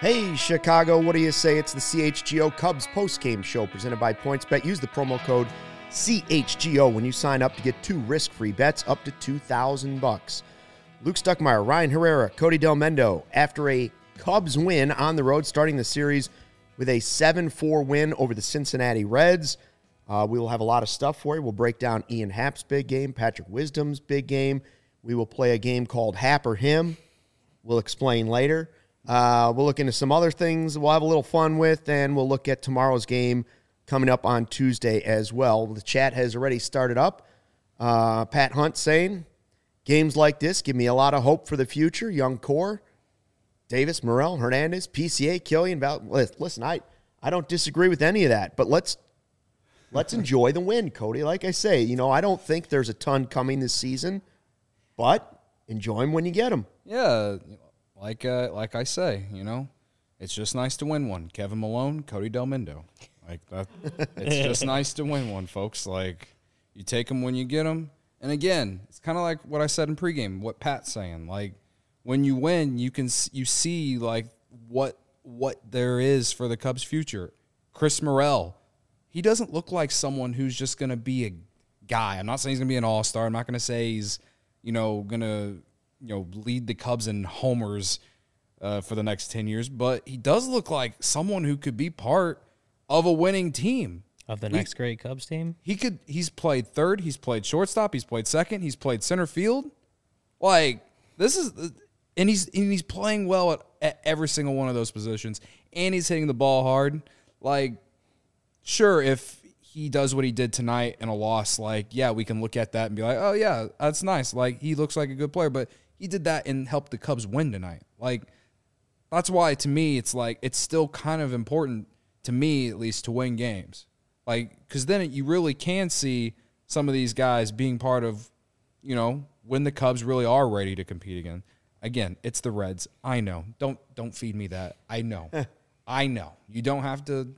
Hey, Chicago, what do you say? It's the CHGO Cubs postgame show presented by PointsBet. Use the promo code CHGO when you sign up to get 2 risk-free bets up to $2,000. Luke Stuckmeyer, Ryan Herrera, Cody Del Mendo, after a Cubs win on the road, starting the series with a 7-4 win over the Cincinnati Reds. We will have a lot of stuff for you. We'll break down Ian Happ's big game, Patrick Wisdom's big game. We will play a game called Happ or Him. We'll explain later. We'll look into some other things we'll have a little fun with, and we'll look at tomorrow's game coming up on Tuesday as well. The chat has already started up. Pat Hunt saying, games like this give me a lot of hope for the future. Young core, Davis, Morel, Hernandez, PCA, Killian. Listen, I don't disagree with any of that, but let's enjoy the win, Cody. Like I say, I don't think there's a ton coming this season, but enjoy them when you get them. Yeah, like I say, it's just nice to win one. Kevin Malone, Cody Del Mendo. Like that, it's just nice to win one, folks. Like, you take them when you get them. And again, it's kind of like what I said in pregame, what Pat's saying. Like, when you win, you see like what there is for the Cubs' future. Chris Morel, he doesn't look like someone who's just going to be a guy. I'm not saying he's going to be an all-star. I'm not going to say he's, going to lead the Cubs in homers for the next 10 years, but he does look like someone who could be part of a winning team. Of the next great Cubs team? He's played third, he's played shortstop, he's played second, he's played center field. Like, and he's playing well at every single one of those positions, and he's hitting the ball hard. Like, sure, if he does what he did tonight in a loss, like, yeah, we can look at that and be like, oh, yeah, that's nice. Like, he looks like a good player, but he did that and helped the Cubs win tonight. Like, that's why, to me, it's like, it's still kind of important, to me at least, to win games. Like, because then you really can see some of these guys being part of, when the Cubs really are ready to compete again. Again, it's the Reds. I know. Don't feed me that. I know. I know. You don't have to.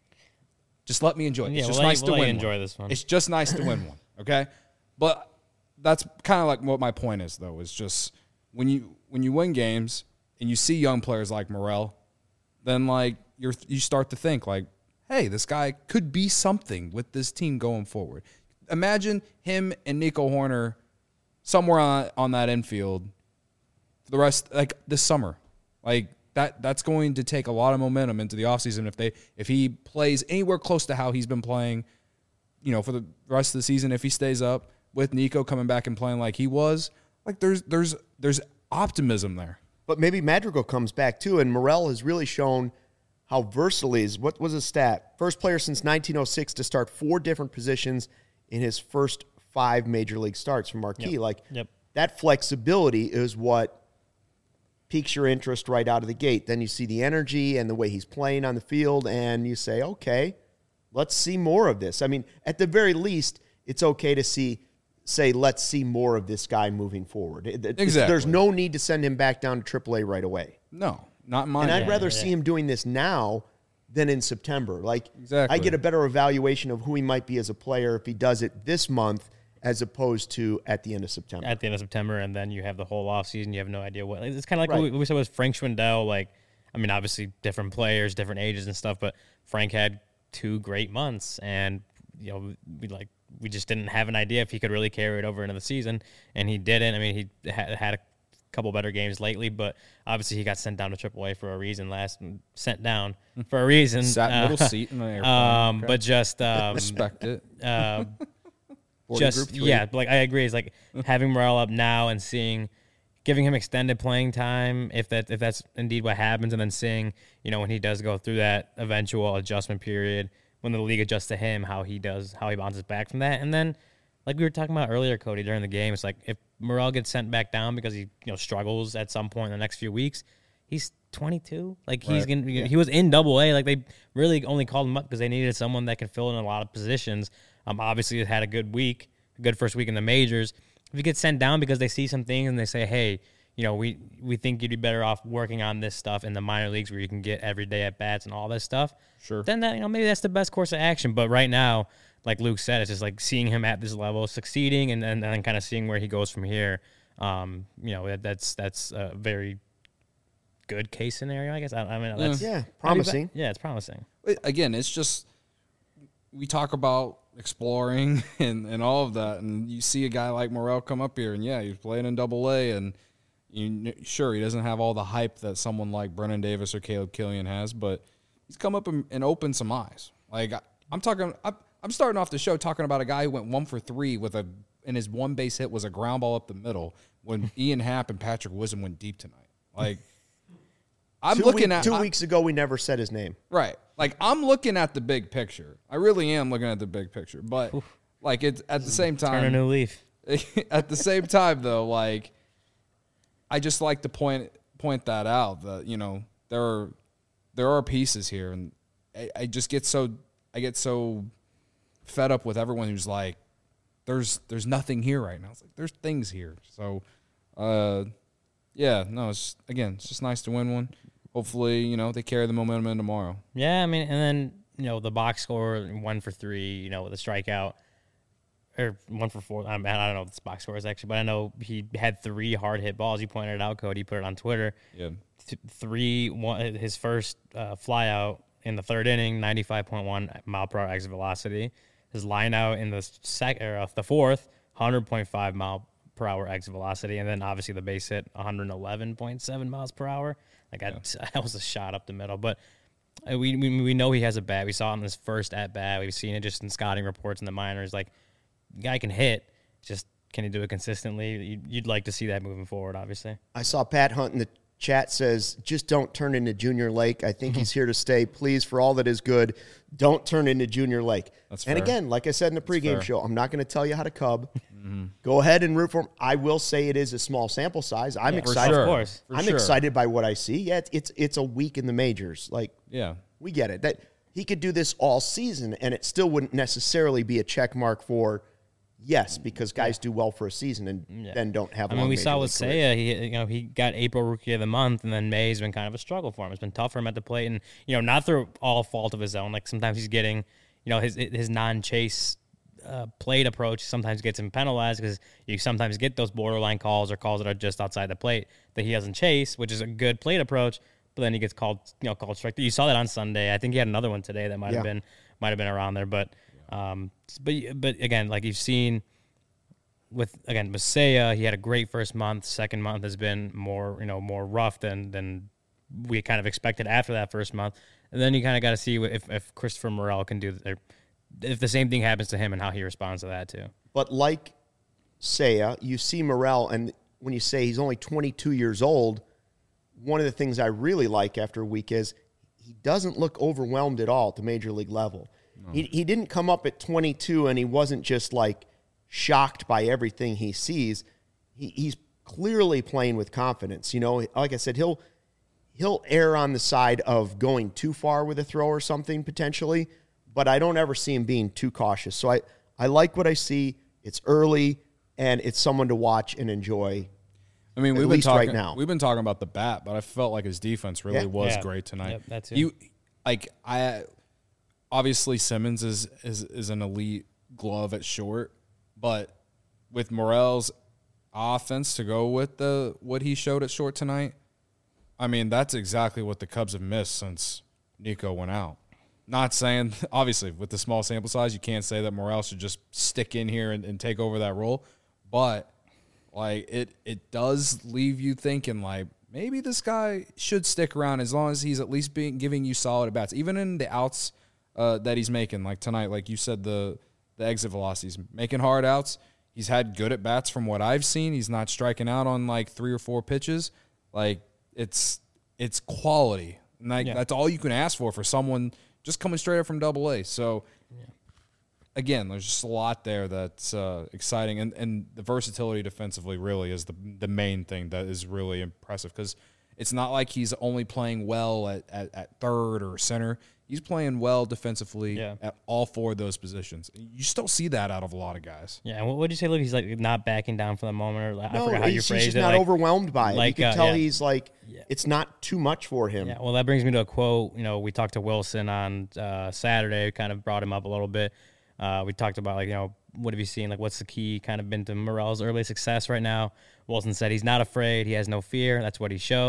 Just let me enjoy it. It's just nice to win. Enjoy this one. It's just nice to win one. Okay, but that's kind of like what my point is, though. Is just when you win games and you see young players like Morel, then like you start to think like, hey, this guy could be something with this team going forward. Imagine him and Nico Horner somewhere on that infield for the rest, like this summer. Like, that's going to take a lot of momentum into the offseason if he plays anywhere close to how he's been playing, for the rest of the season. If he stays up with Nico coming back and playing like he was, like there's optimism there. But maybe Madrigal comes back too, and Morel has really shown how versatile he is. What was his stat? First player since 1906 to start 4 different positions in his first 5 major league starts for Marquee. That flexibility is what piques your interest right out of the gate. Then you see the energy and the way he's playing on the field, and you say, okay, let's see more of this. I mean, at the very least, it's okay to say, let's see more of this guy moving forward. Exactly. There's no need to send him back down to AAA right away. No, not mine. And I'd rather see him doing this now than in September. Like, exactly. I get a better evaluation of who he might be as a player if he does it this month as opposed to at the end of September. At the end of September, and then you have the whole offseason. You have no idea what. It's kind of like what we said with Frank Schwindel. Like, I mean, obviously different players, different ages and stuff, but Frank had 2 great months, and we just didn't have an idea if he could really carry it over into the season, and he didn't. I mean, he had a couple better games lately, but obviously he got sent down to AAA for a reason. Sent down for a reason. Sat middle seat in the airplane. Okay. But just respect it. Like I agree. It's like having Morel up now and giving him extended playing time if that's indeed what happens, and then seeing when he does go through that eventual adjustment period when the league adjusts to him, how he bounces back from that. And then, like we were talking about earlier, Cody, during the game, it's like if Morel gets sent back down because he struggles at some point in the next few weeks, he's 22. Like, he's gonna. He was in AA. Like, they really only called him up because they needed someone that could fill in a lot of positions. Obviously, he had a good first week in the majors. If you get sent down because they see some things and they say, hey, we think you'd be better off working on this stuff in the minor leagues where you can get everyday at bats and all this stuff. Sure. Then that maybe that's the best course of action. But right now, like Luke said, it's just like seeing him at this level, succeeding, and then kind of seeing where he goes from here. That's a very good case scenario, I guess. I mean, that's promising. Yeah, it's promising. Again, it's just we talk about exploring and all of that, and you see a guy like Morel come up here, and he's playing in Double-A, and sure, he doesn't have all the hype that someone like Brennan Davis or Caleb Killian has, but he's come up and opened some eyes. Like I'm starting off the show talking about a guy who went 1 for 3 and his one base hit was a ground ball up the middle when Ian Happ and Patrick Wisdom went deep tonight. Like I'm looking at 2 weeks ago, we never said his name. Right. Like I'm looking at the big picture. I really am looking at the big picture, but like it's at the same time. Turn a new leaf. At the same time, though, like I just like to point that out that there are pieces here, and I get so fed up with everyone who's like, there's nothing here right now. It's like there's things here. So, it's just nice to win one. Hopefully, they carry the momentum in tomorrow. Yeah, I mean, and then the box score 1 for 3, with a strikeout. Or 1 for 4. I don't know what this box score is actually, but I know he had 3 hard hit balls. You pointed it out, Cody. You put it on Twitter. Yeah. 3, his first fly out in the 3rd inning, 95.1 mile per hour exit velocity. His line out in the 4th, 100.5 mile per hour exit velocity, and then obviously the base hit, 111.7 miles per hour. That was a shot up the middle, but. We know he has a bat. We saw it in his first at bat. We've seen it just in scouting reports in the minors. Like, the guy can hit, just can he do it consistently? You'd like to see that moving forward, obviously. I saw Pat Hunt in the chat says, just don't turn into Junior Lake. I think he's here to stay. Please, for all that is good, don't turn into Junior Lake. That's and fair. Again, like I said in the pregame show, I'm not going to tell you how to cub. Go ahead and root for him. I will say it is a small sample size. I'm excited. Of course. I'm excited by what I see. Yeah, it's a week in the majors. Like, we get it. That he could do this all season, and it still wouldn't necessarily be a check mark for yes, because guys do well for a season and then don't have. We saw with Seiya, he got April Rookie of the Month, and then May's been kind of a struggle for him. It's been tough for him at the plate, and not through all fault of his own. Like sometimes he's getting, his non-chase plate approach sometimes gets him penalized because you sometimes get those borderline calls or calls that are just outside the plate that he doesn't chase, which is a good plate approach. But then he gets called strike. You saw that on Sunday. I think he had another one today that might have been around there. But again, like you've seen with Seiya, he had a great first month. Second month has been more rough than we kind of expected after that first month. And then you kind of got to see if Christopher Morel can do if the same thing happens to him and how he responds to that too. But like Seiya, you see Morel, and when you say he's only 22 years old, one of the things I really like after a week is he doesn't look overwhelmed at all at the major league level. No. He didn't come up at 22 and he wasn't just like shocked by everything he sees. He's clearly playing with confidence. Like I said, he'll err on the side of going too far with a throw or something potentially, but I don't ever see him being too cautious. So I like what I see. It's early, and it's someone to watch and enjoy. I mean, we've been talking about the bat, but I felt like his defense really was great tonight. Yep, that too. Obviously Simmons is an elite glove at short, but with Morel's offense to go with what he showed at short tonight, I mean, that's exactly what the Cubs have missed since Nico went out. Not saying, obviously, with the small sample size, you can't say that Morel should just stick in here and take over that role, but like it does leave you thinking like maybe this guy should stick around as long as he's at least giving you solid at bats, even in the outs that he's making. Like tonight, like you said, the exit velocities, making hard outs. He's had good at bats from what I've seen. He's not striking out on like 3 or 4 pitches. Like it's quality, and that's all you can ask for someone just coming straight up from Double-A. So. Yeah. Again, there's just a lot there that's exciting, and the versatility defensively really is the main thing that is really impressive because it's not like he's only playing well at third or center. He's playing well defensively at all 4 of those positions. You still see that out of a lot of guys. Yeah, and what would you say, Luke? He's like not backing down for the moment, or I forgot how you phrased it. He's just not overwhelmed by it. You can tell he's like it's not too much for him. Yeah, well, that brings me to a quote. We talked to Wilson on Saturday, kind of brought him up a little bit. We talked about, what have you seen? Like, what's the key kind of been to Morel's early success right now? Wilson said he's not afraid. He has no fear. That's what he shows.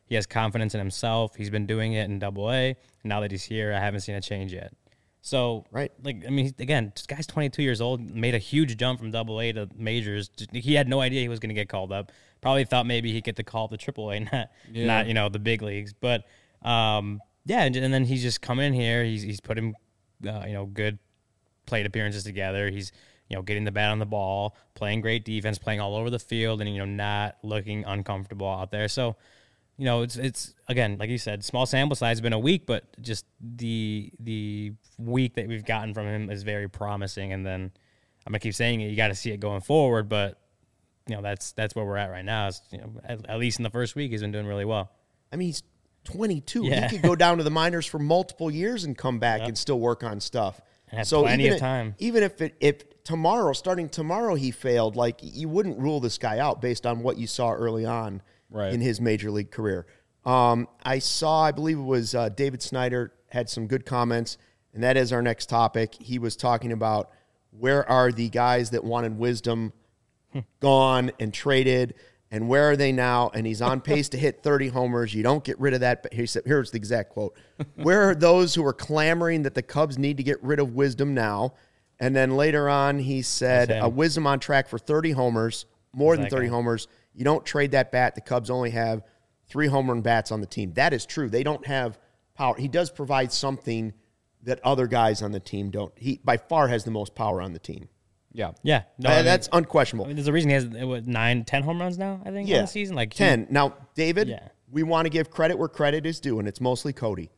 He has confidence in himself. He's been doing it in Double-A. And now that he's here, I haven't seen a change yet. So, Right. Again, this guy's 22 years old, made a huge jump from Double-A to majors. He had no idea he was going to get called up. Probably thought maybe he'd get the call up to Triple-A, not the big leagues. But and then he's just come in here. He's putting good plate appearances together. He's getting the bat on the ball, playing great defense, playing all over the field, and not looking uncomfortable out there. So. It's again, like you said, small sample size, been a week, but just the week that we've gotten from him is very promising. And then I'm gonna keep saying it, you got to see it going forward. But that's where we're at right now. Is, at least in the first week, he's been doing really well. I mean, he's 22. Yeah. He could go down to the minors for multiple years and come back and still work on stuff. And have plenty of time. Even if starting tomorrow, he failed, like you wouldn't rule this guy out based on what you saw early on. Right. In his major league career. I believe it was David Snyder had some good comments, and that is our next topic. He was talking about where are the guys that wanted Wisdom gone and traded, and where are they now? And he's on pace to hit 30 homers. You don't get rid of that. He said, here's the exact quote. Where are those who are clamoring that the Cubs need to get rid of Wisdom now? And then later on, he said, Wisdom on track for 30 homers, more than 30 homers. You don't trade that bat. The Cubs only have 3 home run bats on the team. That is true. They don't have power. He does provide something that other guys on the team don't. He, by far, has the most power on the team. Yeah. Yeah. No, that's unquestionable. There's a reason he has 9-10 home runs now, I think, on the season. Like 10. Now, David, we want to give credit where credit is due, and it's mostly Cody.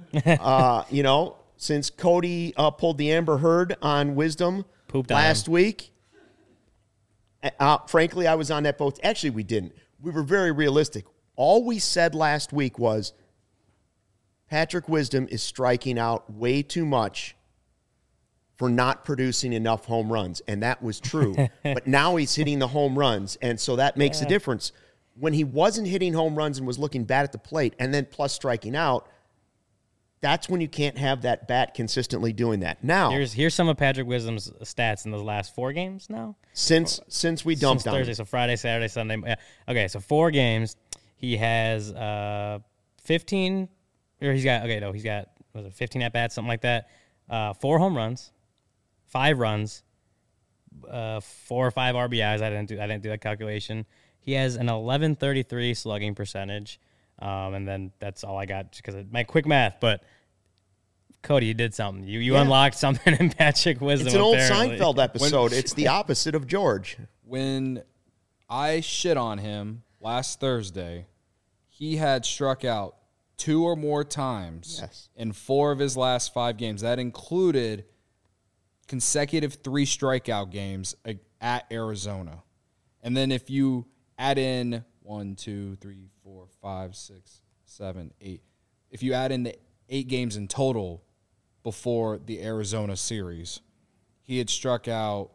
Since Cody pulled the Amber Heard on Wisdom last week, frankly, I was on that boat. Actually, we didn't. We were very realistic. All we said last week was Patrick Wisdom is striking out way too much for not producing enough home runs, and that was true. But now he's hitting the home runs, and so that makes a difference. When he wasn't hitting home runs and was looking bad at the plate and then plus striking out, that's when you can't have that bat consistently doing that. Now, here's some of Patrick Wisdom's stats in those last 4 games now. Since we dumped on Thursday, him. so Friday, Saturday, Sunday. Yeah. Okay, so 4 games. He has 15, or he's got 15 at bats, something like that. 4 home runs, 5 runs, 4 or 5 RBIs. I didn't do that calculation. He has an 1133 slugging percentage. And then that's all I got because of my quick math. But Cody, you did something. You unlocked something in Patrick Wisdom. It's an old apparently. Seinfeld episode. It's the opposite of George. When I shit on him last Thursday, he had struck out 2 or more times in 4 of his last 5 games. That included consecutive 3 strikeout games at Arizona. And then if you add in 1, 2, 3, 4, 5, 6, 7, 8. If you add in the 8 games in total before the Arizona series, he had struck out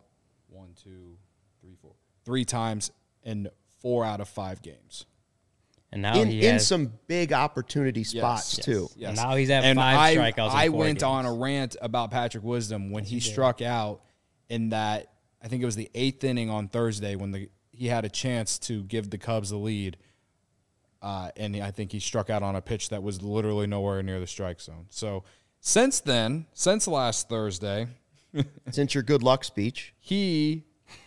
3 times in 4 out of 5 games. And now in some big opportunity spots too. Yes. And now he's at 5 strikeouts. I in 4 went games. on a rant about Patrick Wisdom when he struck out in that, I think it was the 8th inning on Thursday when he had a chance to give the Cubs the lead. And I think he struck out on a pitch that was literally nowhere near the strike zone. So since then, since last Thursday, since your good luck speech, he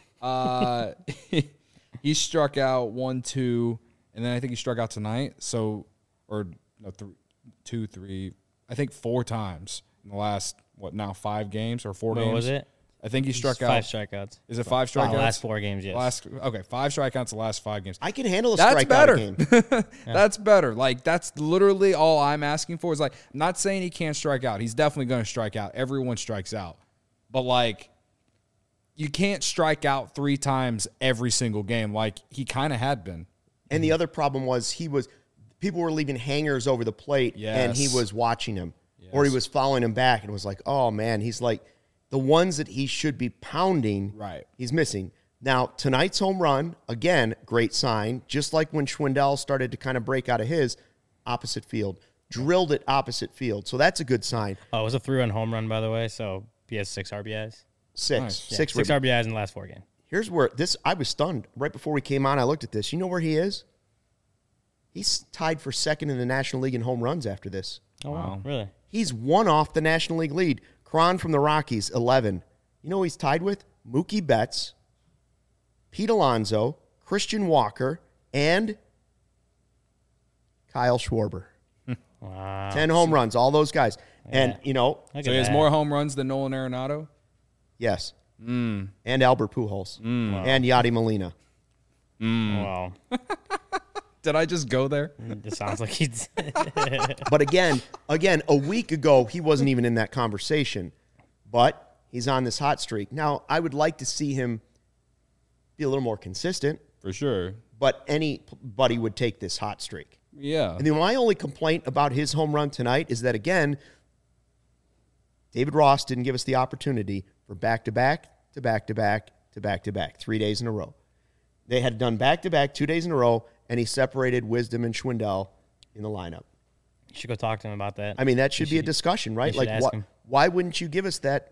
struck out 1, 2, and then I think he struck out tonight. So, or no, 2, 3, I think 4 times in the last 5 games or 4 games. What was it? I think he struck out 5 strikeouts. Is it 5 strikeouts? Last 4 games, yes. 5 strikeouts the last 5 games. I can handle a That's strikeout better. game. That's better. Like, that's literally all I'm asking for. Is like, I'm not saying he can't strike out. He's definitely going to strike out. Everyone strikes out. But, like, you can't strike out 3 times every single game like he kind of had been. And the other problem was people were leaving hangers over the plate, and he was watching him, or he was following him back, and was like, oh, man, he's like, the ones that he should be pounding, he's missing. Now, tonight's home run, again, great sign, just like when Schwindel started to kind of break out of his opposite field, drilled it opposite field. So that's a good sign. Oh, it was a 3-run home run, by the way, so he has 6 RBIs. 6. Nice. Yeah, 6 RBIs in the last 4 games. Here's where I was stunned. Right before we came on, I looked at this. You know where he is? He's tied for second in the National League in home runs after this. Oh, wow. Really? He's one off the National League lead. Cron from the Rockies, 11. You know who he's tied with? Mookie Betts, Pete Alonso, Christian Walker, and Kyle Schwarber. Wow. 10 home runs, all those guys. And, Yeah. you know, Look So at he has that. more home runs than Nolan Arenado? yes. And Albert Pujols. And Yadi Molina. Wow. Did I just go there? It sounds like he's. But again, a week ago, he wasn't even in that conversation. But he's on this hot streak. Now, I would like to see him be a little more consistent, For sure. but anybody would take this hot streak. Yeah. And then my only complaint about his home run tonight is that, again, David Ross didn't give us the opportunity for back-to-back, to back-to-back, to back-to-back, 3 days in a row. They had done back-to-back 2 days in a row, and he separated Wisdom and Schwindel in the lineup. You should go talk to him about that. I mean, that should be a discussion, right? should Like, ask him. why wouldn't you give us that,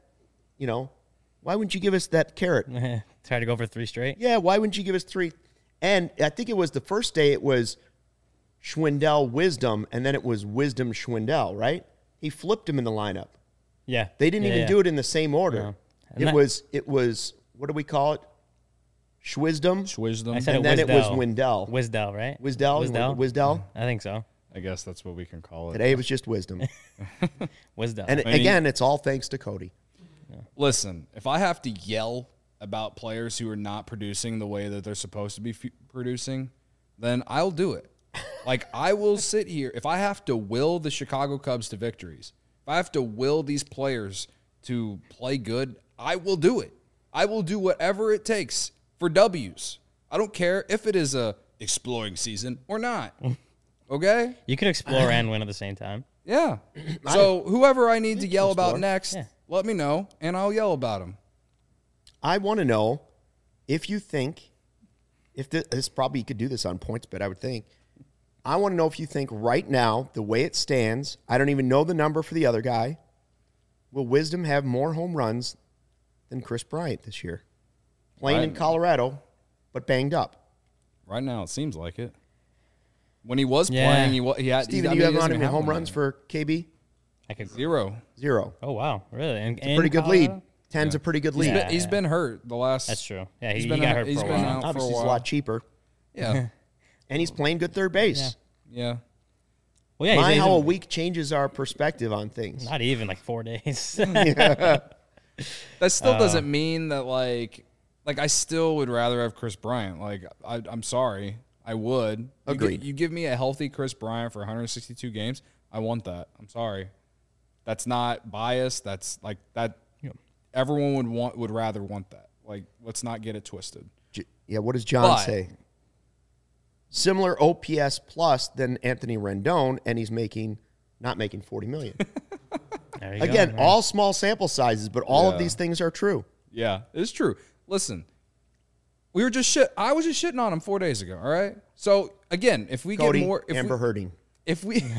why wouldn't you give us that carrot? Try to go for 3 straight. Yeah, why wouldn't you give us 3? And I think it was the first day it was Schwindel Wisdom, and then it was Wisdom Schwindel, right? He flipped him in the lineup. Yeah. They didn't even do it in the same order. No. And It that- was what do we call it? Schwisdom. Schwisdom. I said And it then it was Wisdell. Windell. Wisdell, right? Wisdell? Wisdell? I think so. I guess that's what we can call it. Today it was just Wisdom. Wisdell. And again, it's all thanks to Cody. Listen, if I have to yell about players who are not producing the way that they're supposed to be producing, then I'll do it. Like, I will sit here. If I have to will the Chicago Cubs to victories, if I have to will these players to play good, I will do it. I will do whatever it takes for W's. I don't care if it is a exploring season or not. Okay? You could explore and win at the same time. Yeah. So whoever I need to yell about explore. next, Yeah. let me know, and I'll yell about them. I want to know if you think, if this probably you could do this on PointsBet, I would think. I want to know if you think right now, the way it stands, I don't even know the number for the other guy. Will Wisdom have more home runs than Chris Bryant this year? Playing in Right. Colorado, but banged up. Right now, it seems like it. When he was Yeah. playing, he had. Steven, I do mean, you he have doesn't on him even home one runs right for KB? I could. now. 0. 0. Oh wow, really? And, It's a pretty good lead. 10's a pretty good lead. Yeah. He's been hurt the last. That's true. Yeah, he He's been got out- hurt he's for a been while. out. for a Obviously, he's a while. lot cheaper. Yeah, And he's playing good third base. yeah. Well, yeah, My, he's how a even- week changes our perspective on things. Not even like 4 days. That still doesn't mean that like I still would rather have Chris Bryant. Like I'm sorry, I would. Agreed. You give me a healthy Chris Bryant for 162 games, I want that. I'm sorry. That's not biased. That's like that. Everyone would rather want that. Like, let's not get it twisted. Yeah, what does John But- say? Similar OPS plus than Anthony Rendon, and he's not making $40 million. There you Again, go. all small sample sizes, but all of Yeah. these things are true. Yeah, it's true. Listen, I was just shitting on him 4 days ago. All right. So again, if we Cody, get more, Amber Herding. if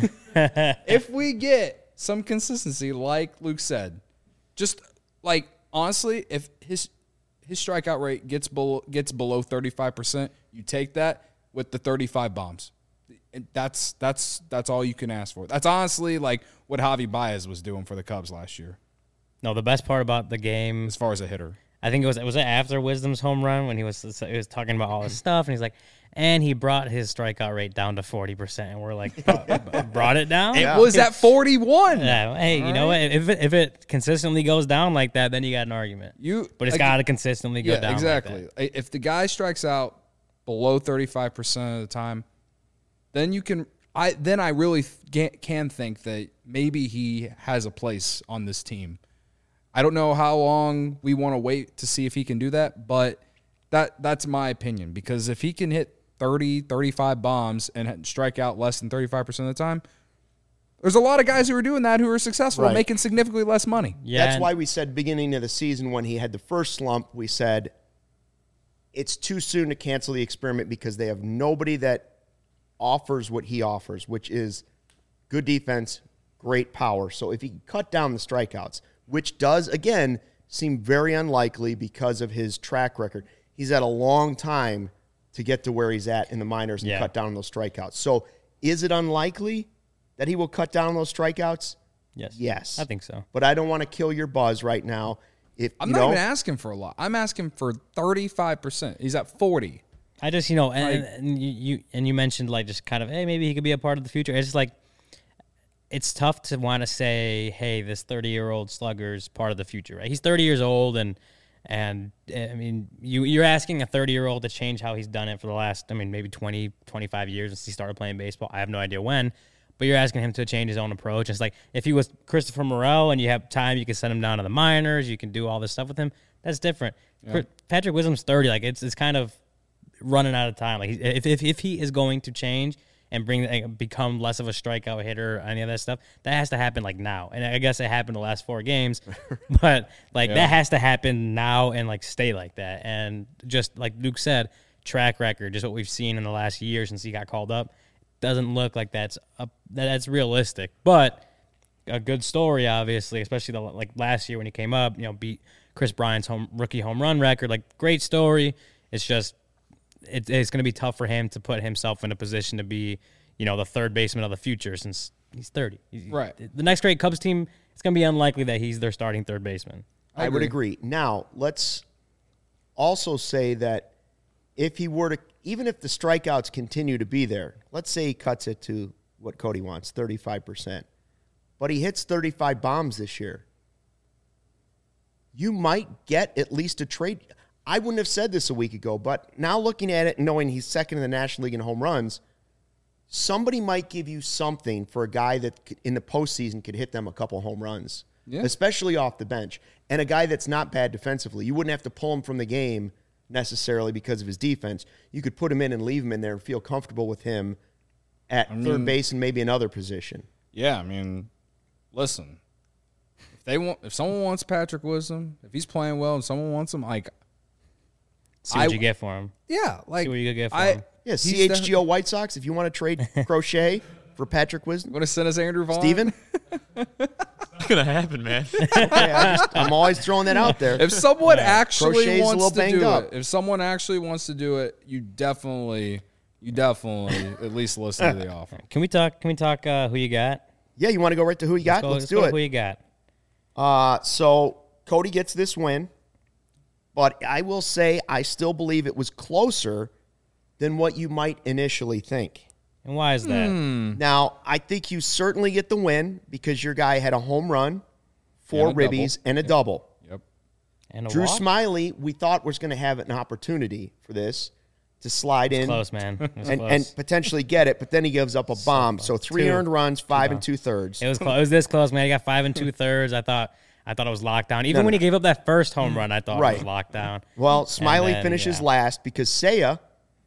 we get some consistency, like Luke said, just like honestly, if his strikeout rate gets below 35%, you take that with the 35 bombs. And that's all you can ask for. That's honestly like what Javi Baez was doing for the Cubs last year No, the best part about the game, as far as a hitter. I think it was after Wisdom's home run when he was talking about all his stuff, and he's like, and he brought his strikeout rate down to 40%, and we're like, brought it down. It was at 41. Yeah, hey, you know what? If it consistently goes down like that, then you got an argument. But it's got to consistently go down. Exactly. Like that. If the guy strikes out below 35% of the time, then you can. I really can think that maybe he has a place on this team. I don't know how long we want to wait to see if he can do that, but that's my opinion. Because if he can hit 30, 35 bombs and strike out less than 35% of the time, there's a lot of guys who are doing that who are successful, Right. making significantly less money. Yeah, That's why we said beginning of the season when he had the first slump, we said it's too soon to cancel the experiment because they have nobody that offers what he offers, which is good defense, great power. So if he can cut down the strikeouts, which does, again, seem very unlikely because of his track record. He's had a long time to get to where he's at in the minors and cut down on those strikeouts. So is it unlikely that he will cut down on those strikeouts? Yes. I think so. But I don't want to kill your buzz right now. I'm not even asking for a lot. I'm asking for 35%. He's at 40. I just, and you mentioned like just kind of, hey, maybe he could be a part of the future. It's just like, it's tough to want to say, hey, this 30-year-old slugger's part of the future, right? He's 30 years old, and I mean, you're asking a 30-year-old to change how he's done it for the last, maybe 20, 25 years since he started playing baseball. I have no idea when, but you're asking him to change his own approach. It's like if he was Christopher Morel and you have time, you can send him down to the minors, you can do all this stuff with him. That's different. Yeah. Patrick Wisdom's 30. Like it's kind of running out of time. Like if he is going to change and become less of a strikeout hitter or any of that stuff, that has to happen like now. And I guess it happened the last 4 games, but that has to happen now and like stay like that. And just like Luke said, track record, just what we've seen in the last year since he got called up, doesn't look like that's realistic. But a good story, obviously, especially like last year when he came up, beat Chris Bryant's rookie home run record. Like, great story. It's just it's going to be tough for him to put himself in a position to be, the third baseman of the future since he's 30. Right. The next great Cubs team, it's going to be unlikely that he's their starting third baseman. I would agree. Now, let's also say that if he were to, even if the strikeouts continue to be there, let's say he cuts it to what Cody wants, 35%, but he hits 35 bombs this year, you might get at least a trade. I wouldn't have said this a week ago, but now looking at it and knowing he's second in the National League in home runs, somebody might give you something for a guy that in the postseason could hit them a couple home runs, especially off the bench, and a guy that's not bad defensively. You wouldn't have to pull him from the game necessarily because of his defense. You could put him in and leave him in there and feel comfortable with him at third base and maybe another position. Yeah, listen, if someone wants Patrick Wisdom, if he's playing well and someone wants him, like, see what you get for him. Yeah, like, see what you get for him. Yeah, CHGO White Sox, if you want to trade Crochet for Patrick Wisdom. Want to send us Andrew Vaughn? Steven? It's going to happen, man. I'm always throwing that out there. If someone actually Crochet's wants to do up. it, if someone actually wants to do it, you definitely at least listen to the offer. Can we talk who you got? Yeah, you want to go right to who you got? Let's do it. Who you got? So Cody gets this win, but I will say I still believe it was closer than what you might initially think. And why is that? Now, I think you certainly get the win because your guy had a home run, 4 ribbies, and a double. Yep. And a Drew walk? Smiley, we thought was going to have an opportunity for this to slide in. Close, man. And potentially get it, but then he gives up a bomb. So 3 earned runs, 5 2/3. It was close. It was this close, man. He got 5 2/3. I thought it was locked down. Even when he gave up that first home run, I thought it was locked down. Well, Smiley finishes last because Seiya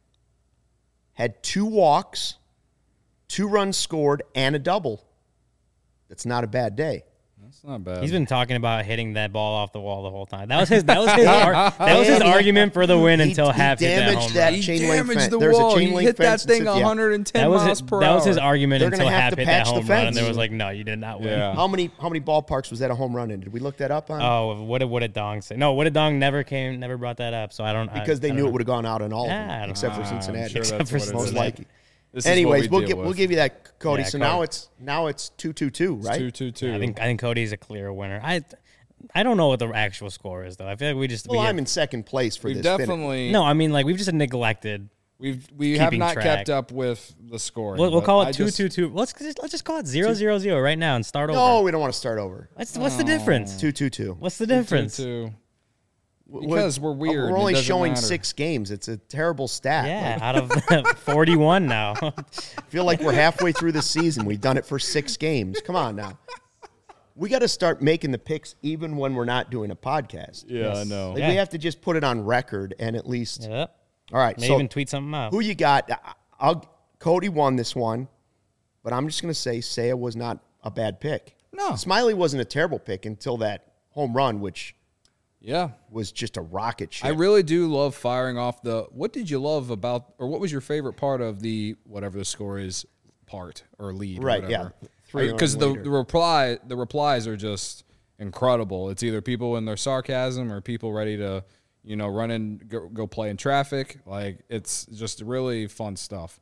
had 2 walks, 2 runs scored, and a double. That's not a bad day. That's not bad. He's been talking about hitting that ball off the wall the whole time. That was his argument for the win until half hit that home run. He damaged the wall. He hit that thing 110 miles per hour. That was his argument until half hit that home run. And fence. there was like, no, you did not win. Yeah. How many ballparks was that a home run in? Did we look that up on? Oh, what did Dong say? No, what did Dong never brought that up. So I don't because they knew it would have gone out in all of I them don't except know. for Cincinnati. Sure Except for that's what it most is. likely. This is Anyways, what we'll give you that, Cody. Yeah, So Cody. now it's 2-2-2, right? 2-2-2. I think Cody's a clear winner. I don't know what the actual score is though. I feel like I'm in second place for We've this. definitely. No, I mean like we've just neglected. We have keeping not track. kept up with the score. We'll call it 2-2-2. Let's just call it 0-0-0 right now and start over. No, we don't want to start over. What's the difference? 2-2-2. What's the difference? 2-2. Because we're weird. We're only It doesn't showing matter. 6 games. It's a terrible stat. Yeah, out of 41 now. I feel like we're halfway through the season. We've done it for 6 games. Come on now. We got to start making the picks even when we're not doing a podcast. Yeah, I know. Like, we have to just put it on record and at least. Yep. All right. Maybe So even tweet something out. who you got? Cody won this one, but I'm just going to say Seiya was not a bad pick. No. Smiley wasn't a terrible pick until that home run, which Yeah. was just a rocket ship. I really do love firing off what did you love about, or what was your favorite part of the, whatever the score is, part or lead? Right, or whatever. yeah. 3 Because on the replies are just incredible. It's either people in their sarcasm or people ready to, go play in traffic. Like, it's just really fun stuff.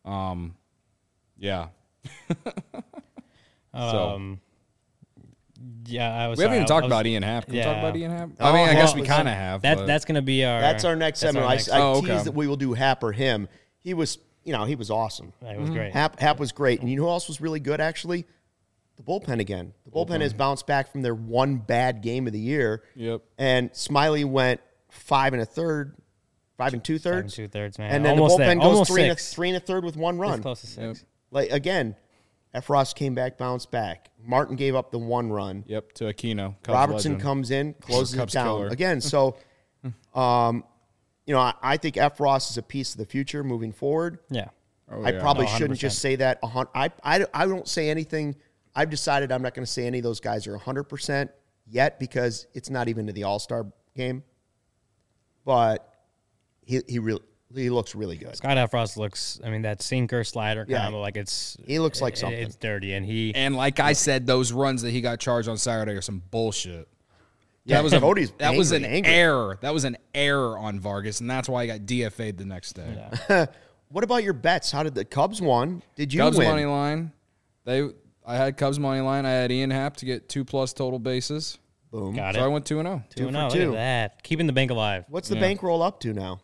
Yeah. Yeah, We haven't even talked about Ian Happ. Can we talk about Ian Happ? Oh, I guess we well, kind of have. but- That's going to be our. That's our next segment. I teased okay. that we will do Hap or him. He was, he was awesome. It was great. Hap was great. And you know who else was really good, actually? The bullpen again. The bullpen has bounced back from their one bad game of the year. Yep. And Smiley went 5 2/3, man. And then Almost the bullpen there. goes Almost 3 6. 1/3 with one It's run. close to 6. Like, again, Efros came back, bounced back. Martin gave up the 1 run. Yep, to Aquino. Cubs Robertson legend. comes in, closes it Cubs down. killer. Again, so, I think Efros is a piece of the future moving forward. Yeah. Oh, I yeah. probably No, shouldn't 100%. just say that. I don't say anything. I've decided I'm not going to say any of those guys are 100% yet because it's not even to the All-Star game. But he looks really good. Scott Efros looks, that sinker slider Yeah. combo, He looks like something. It's dirty, and And like I said, those runs that he got charged on Saturday are some bullshit. Yeah, Cody's that was an angry. error. That was an error on Vargas, and that's why he got DFA'd the next day. What about your bets? How did the Cubs won? Did you Cubs win? money line. I had Cubs money line. I had Ian Happ to get 2+ total bases. Boom. got So I it. went 2-0. 2-0. for Look two. at that. Keeping the bank alive. What's the bankroll up to now?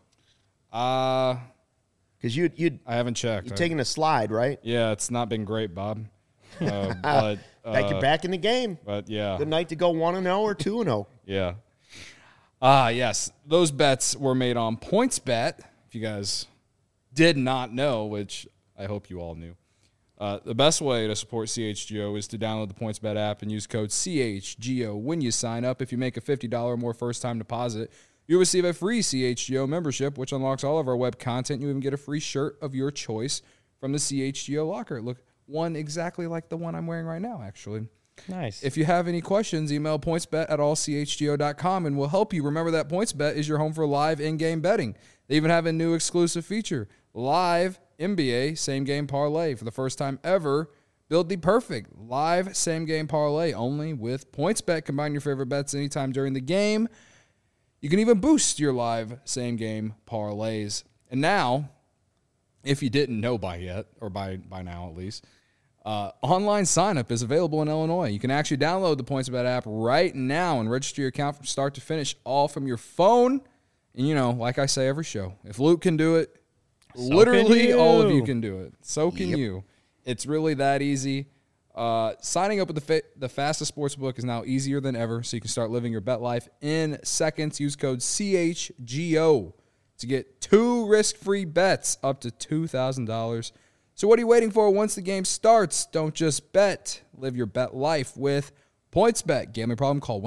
Because you'd I haven't checked. you're taking a slide, right? Yeah, it's not been great, Bob. But You're back in the game. But yeah, Good night to go 1-0 or 2-0. yeah. Yes, those bets were made on PointsBet. If you guys did not know, which I hope you all knew, the best way to support CHGO is to download the PointsBet app and use code CHGO when you sign up. If you make a $50 or more first-time deposit, you'll receive a free CHGO membership, which unlocks all of our web content. You even get a free shirt of your choice from the CHGO locker. Look, one exactly like the one I'm wearing right now, actually. Nice. If you have any questions, email pointsbet@allchgo.com and we'll help you. Remember that PointsBet is your home for live in-game betting. They even have a new exclusive feature, live NBA same-game parlay. For the first time ever, build the perfect live same-game parlay only with PointsBet. Combine your favorite bets anytime during the game. You can even boost your live same-game parlays. And now, if you didn't know by yet, or by now at least, online sign-up is available in Illinois. You can actually download the PointsBet app right now and register your account from start to finish, all from your phone. And, like I say every show, if Luke can do it, literally all of you can do it. So can you. It's really that easy. Signing up with the fastest sportsbook is now easier than ever, so you can start living your bet life in seconds. Use code CHGO to get 2 risk-free bets up to $2,000. So what are you waiting for? Once the game starts, don't just bet. Live your bet life with PointsBet. Gambling problem? Call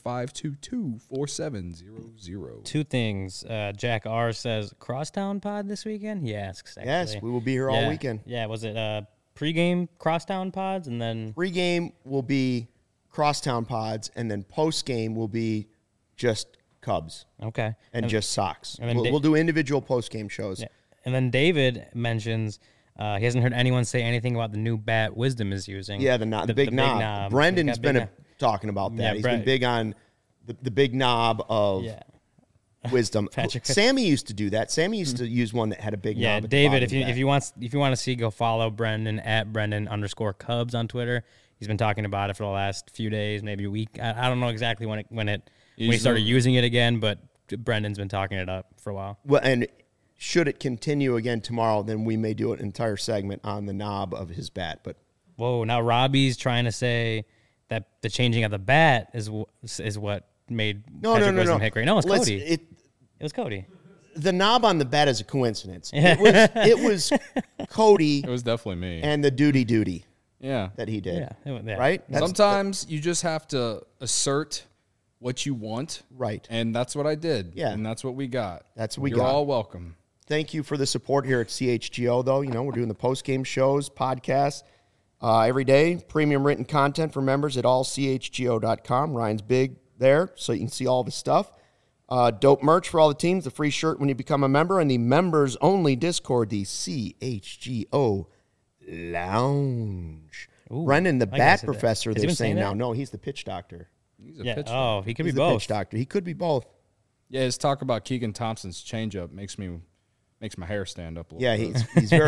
1-800-522-4700. 2 things. Jack R says, Crosstown pod this weekend? He asks, actually. Yes, we will be here all weekend. Yeah, was it pregame Crosstown pods and then... Pre-game will be Crosstown Pods, and then post-game will be just Cubs Okay. and just Sox. and then We'll do individual post-game shows. Yeah. And then David mentions he hasn't heard anyone say anything about the new bat Wisdom is using. Yeah, the big knob. Brendan's been talking about that. Yeah, He's been big on the big knob of Wisdom. Patrick. Sammy used to do that. Sammy used to use one that had a big knob. Yeah, at the David, bottom if of you that. want to see, go follow Brendan at Brendan_Cubs on Twitter. He's been talking about it for the last few days, maybe a week. I don't know exactly when he started using it again, but Brendan's been talking it up for a while. Well, and should it continue again tomorrow, then we may do an entire segment on the knob of his bat. But Whoa, now Robbie's trying to say that the changing of the bat is what made Patrick Wisdom hit great. No, it's Cody. It was Cody. The knob on the bat is a coincidence. It was Cody It was definitely me. and the duty Yeah. that he did. Yeah. Right? Sometimes you just have to assert what you want. Right. And that's what I did. Yeah. And that's what we got. That's what we You're got. all welcome. Thank you for the support here at CHGO, though. We're doing the post-game shows, podcasts every day. Premium written content for members at allchgo.com. Ryan's big there, so you can see all the stuff. Dope merch for all the teams, the free shirt when you become a member, and the members-only Discord, the CHGO Lounge. Ooh, Brendan, the I bat guess it- professor, has he they're been saying saying now. that? No, he's the pitch doctor. He's a Yeah. pitcher. Oh, he could be He's the both. pitch doctor. He could be both. Yeah, his talk about Keegan Thompson's changeup makes my hair stand up a little. Yeah, bit.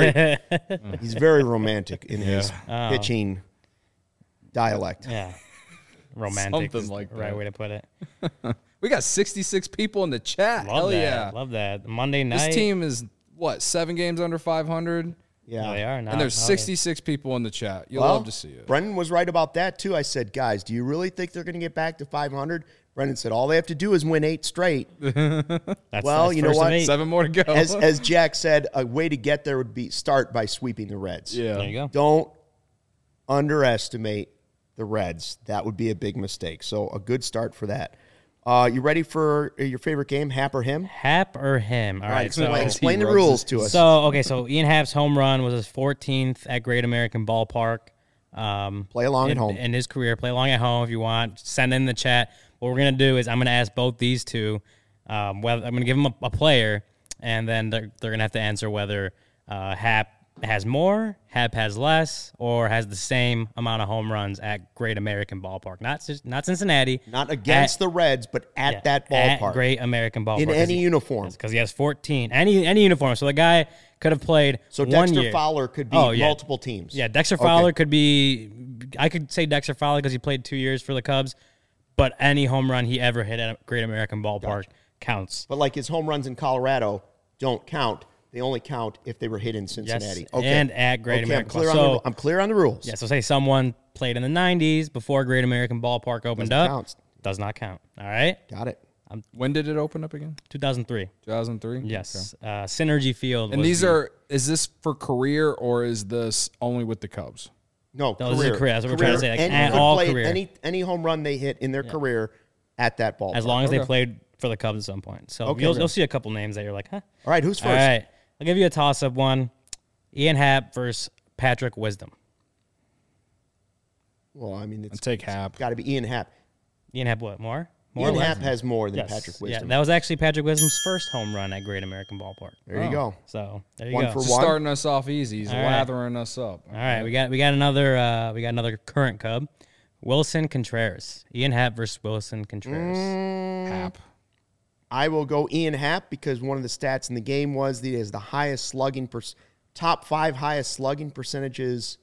he's very romantic in his pitching dialect. Yeah. Romantic. Something is like the right that. way to put it. We got 66 people in the chat. Love Hell that. yeah. Love that. Monday night. This team is, 7 games under 500? Yeah, They are now. And there's 66 people in the chat. You'll Well, love to see it. Brendan was right about that too. I said, guys, do you really think they're going to get back to 500? Brendan said, all they have to do is win 8 straight. That's Well, you know first of what? 8. 7 more to go. As Jack said, a way to get there would be start by sweeping the Reds. yeah. There you go. Don't underestimate the Reds. That would be a big mistake. So a good start for that. You ready for your favorite game, Hap or Him? Hap or him? All right. Explain the He rubs rules his to us. So Ian Happ's home run was his 14th at Great American Ballpark. Play along at home. In his career. Play along at home if you want. Send in the chat. What we're going to do is I'm going to ask both these two. I'm going to give them a player, and then they're going to have to answer whether Hap has more, Hap has less, or has the same amount of home runs at Great American Ballpark. Not Cincinnati. Not against the Reds, but at that ballpark. At Great American Ballpark. in any uniform. Because he has 14. Any uniform. So the guy could have played So 1 Dexter year. Fowler could be Oh, yeah. multiple teams. Yeah, Dexter Fowler could be. I could say Dexter Fowler because he played 2 years for the Cubs, but any home run he ever hit at Great American Ballpark counts. But like his home runs in Colorado don't count. They only count if they were hit in Cincinnati. Yes, and at Great American. I'm clear on the rules. Yeah, so say someone played in the 90s before Great American Ballpark opened Doesn't up. count. Does not count. All right? Got it. When did it open up again? 2003. 2003? Yes. Synergy Field. And was is this for career or is this only with the Cubs? No, No, this is career. career. That's what we're trying to say, like, And at you could all play career. any home run they hit in their career at that ballpark. as long as they Okay. played for the Cubs at some point. So Okay. you'll see a couple names that you're like, huh? All right, who's first? All right. I'll give you a toss-up one. Ian Happ versus Patrick Wisdom. Well, I mean, it's And take Hap. got to be Ian Happ. Ian Happ what? More or Ian less? Happ has more than Yes. Patrick Yeah, Wisdom. that was actually Patrick Wisdom's first home run at Great American Ballpark. There you go. So there you One go. for Just one. starting us off easy. He's All right. lathering us up. All right, we got another current Cub, Wilson Contreras. Ian Happ versus Wilson Contreras. Hap. I will go Ian Happ because one of the stats in the game was that he has the highest slugging, top 5 highest slugging percentages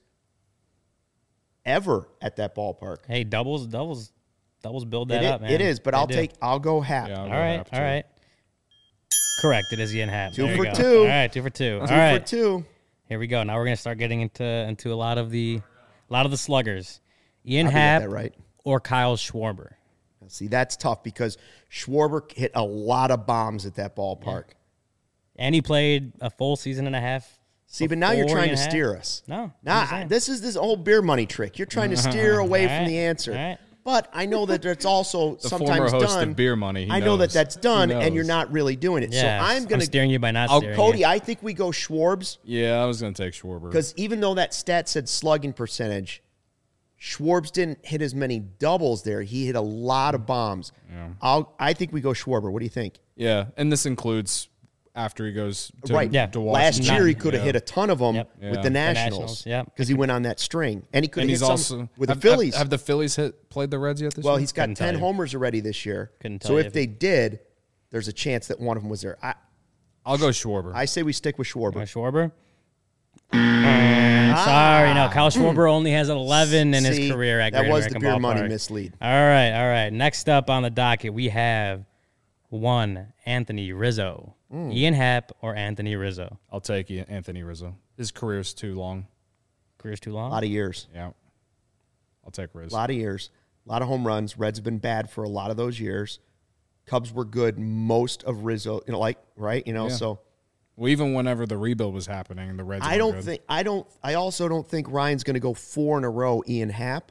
ever at that ballpark. Hey, doubles build that up, man. It is, but They I'll do. I'll go Happ. Yeah, I'll All go right, Hap, all too. right. Correct. It is Ian Happ. Two There you for go. two. All right, 2 for 2. Two All right, for 2. here we go. Now we're gonna start getting into a lot of the sluggers. Ian I'll get Happ that right. or Kyle Schwarber. See, that's tough because Schwarber hit a lot of bombs at that ballpark. And he played a full season and a half. See, but now you're before trying Ian to Happ. steer us. No, I'm just Nah, saying. this is this old beer money trick. You're trying to steer away All from right, the answer. all right. But I know that it's also The sometimes former host done. of Beer Money. He I know that knows. that's done, He and you're knows. not really doing it. Yeah, so I'm going to steering you by not I'll- steering Cody, you. I think we go Schwarbs Yeah, I was going to take Schwarber. because even though that stat said slugging percentage, Schwarbs didn't hit as many doubles there. He hit a lot of bombs. I think we go Schwarber. What do you think? Yeah, and this includes after he goes to, Right. Yeah. to Last Washington. year he could have Yeah. hit a ton of them Yep. with Yeah. the The Nationals. Nationals, yep. Because he went on that string, and he could And have he's hit also some with have, the Phillies. Have the Phillies played the Reds yet this Well, year? he's got Couldn't tell 10 you. homers already this year. Couldn't So tell if you. they did, there's a chance that one of them was there. I'll go Schwarber. I say we stick with Schwarber. Schwarber? Sorry, no. Kyle Schwarber only has 11 in his See, career at that Great was the American beer money Ballpark. mislead. All right. Next up on the docket, we have one Anthony Rizzo. Ian Happ or Anthony Rizzo? I'll take Anthony Rizzo. His career's too long. Career's too A long? lot of years. Yeah. I'll take A Rizzo. lot of years. A lot of home runs. Reds have been bad for a lot of those years. Cubs were good most of Rizzo, right? Yeah. So Well, even whenever the rebuild was happening, the Reds I were don't good. think I also don't think Ryan's going to go 4 in a row Ian Happ.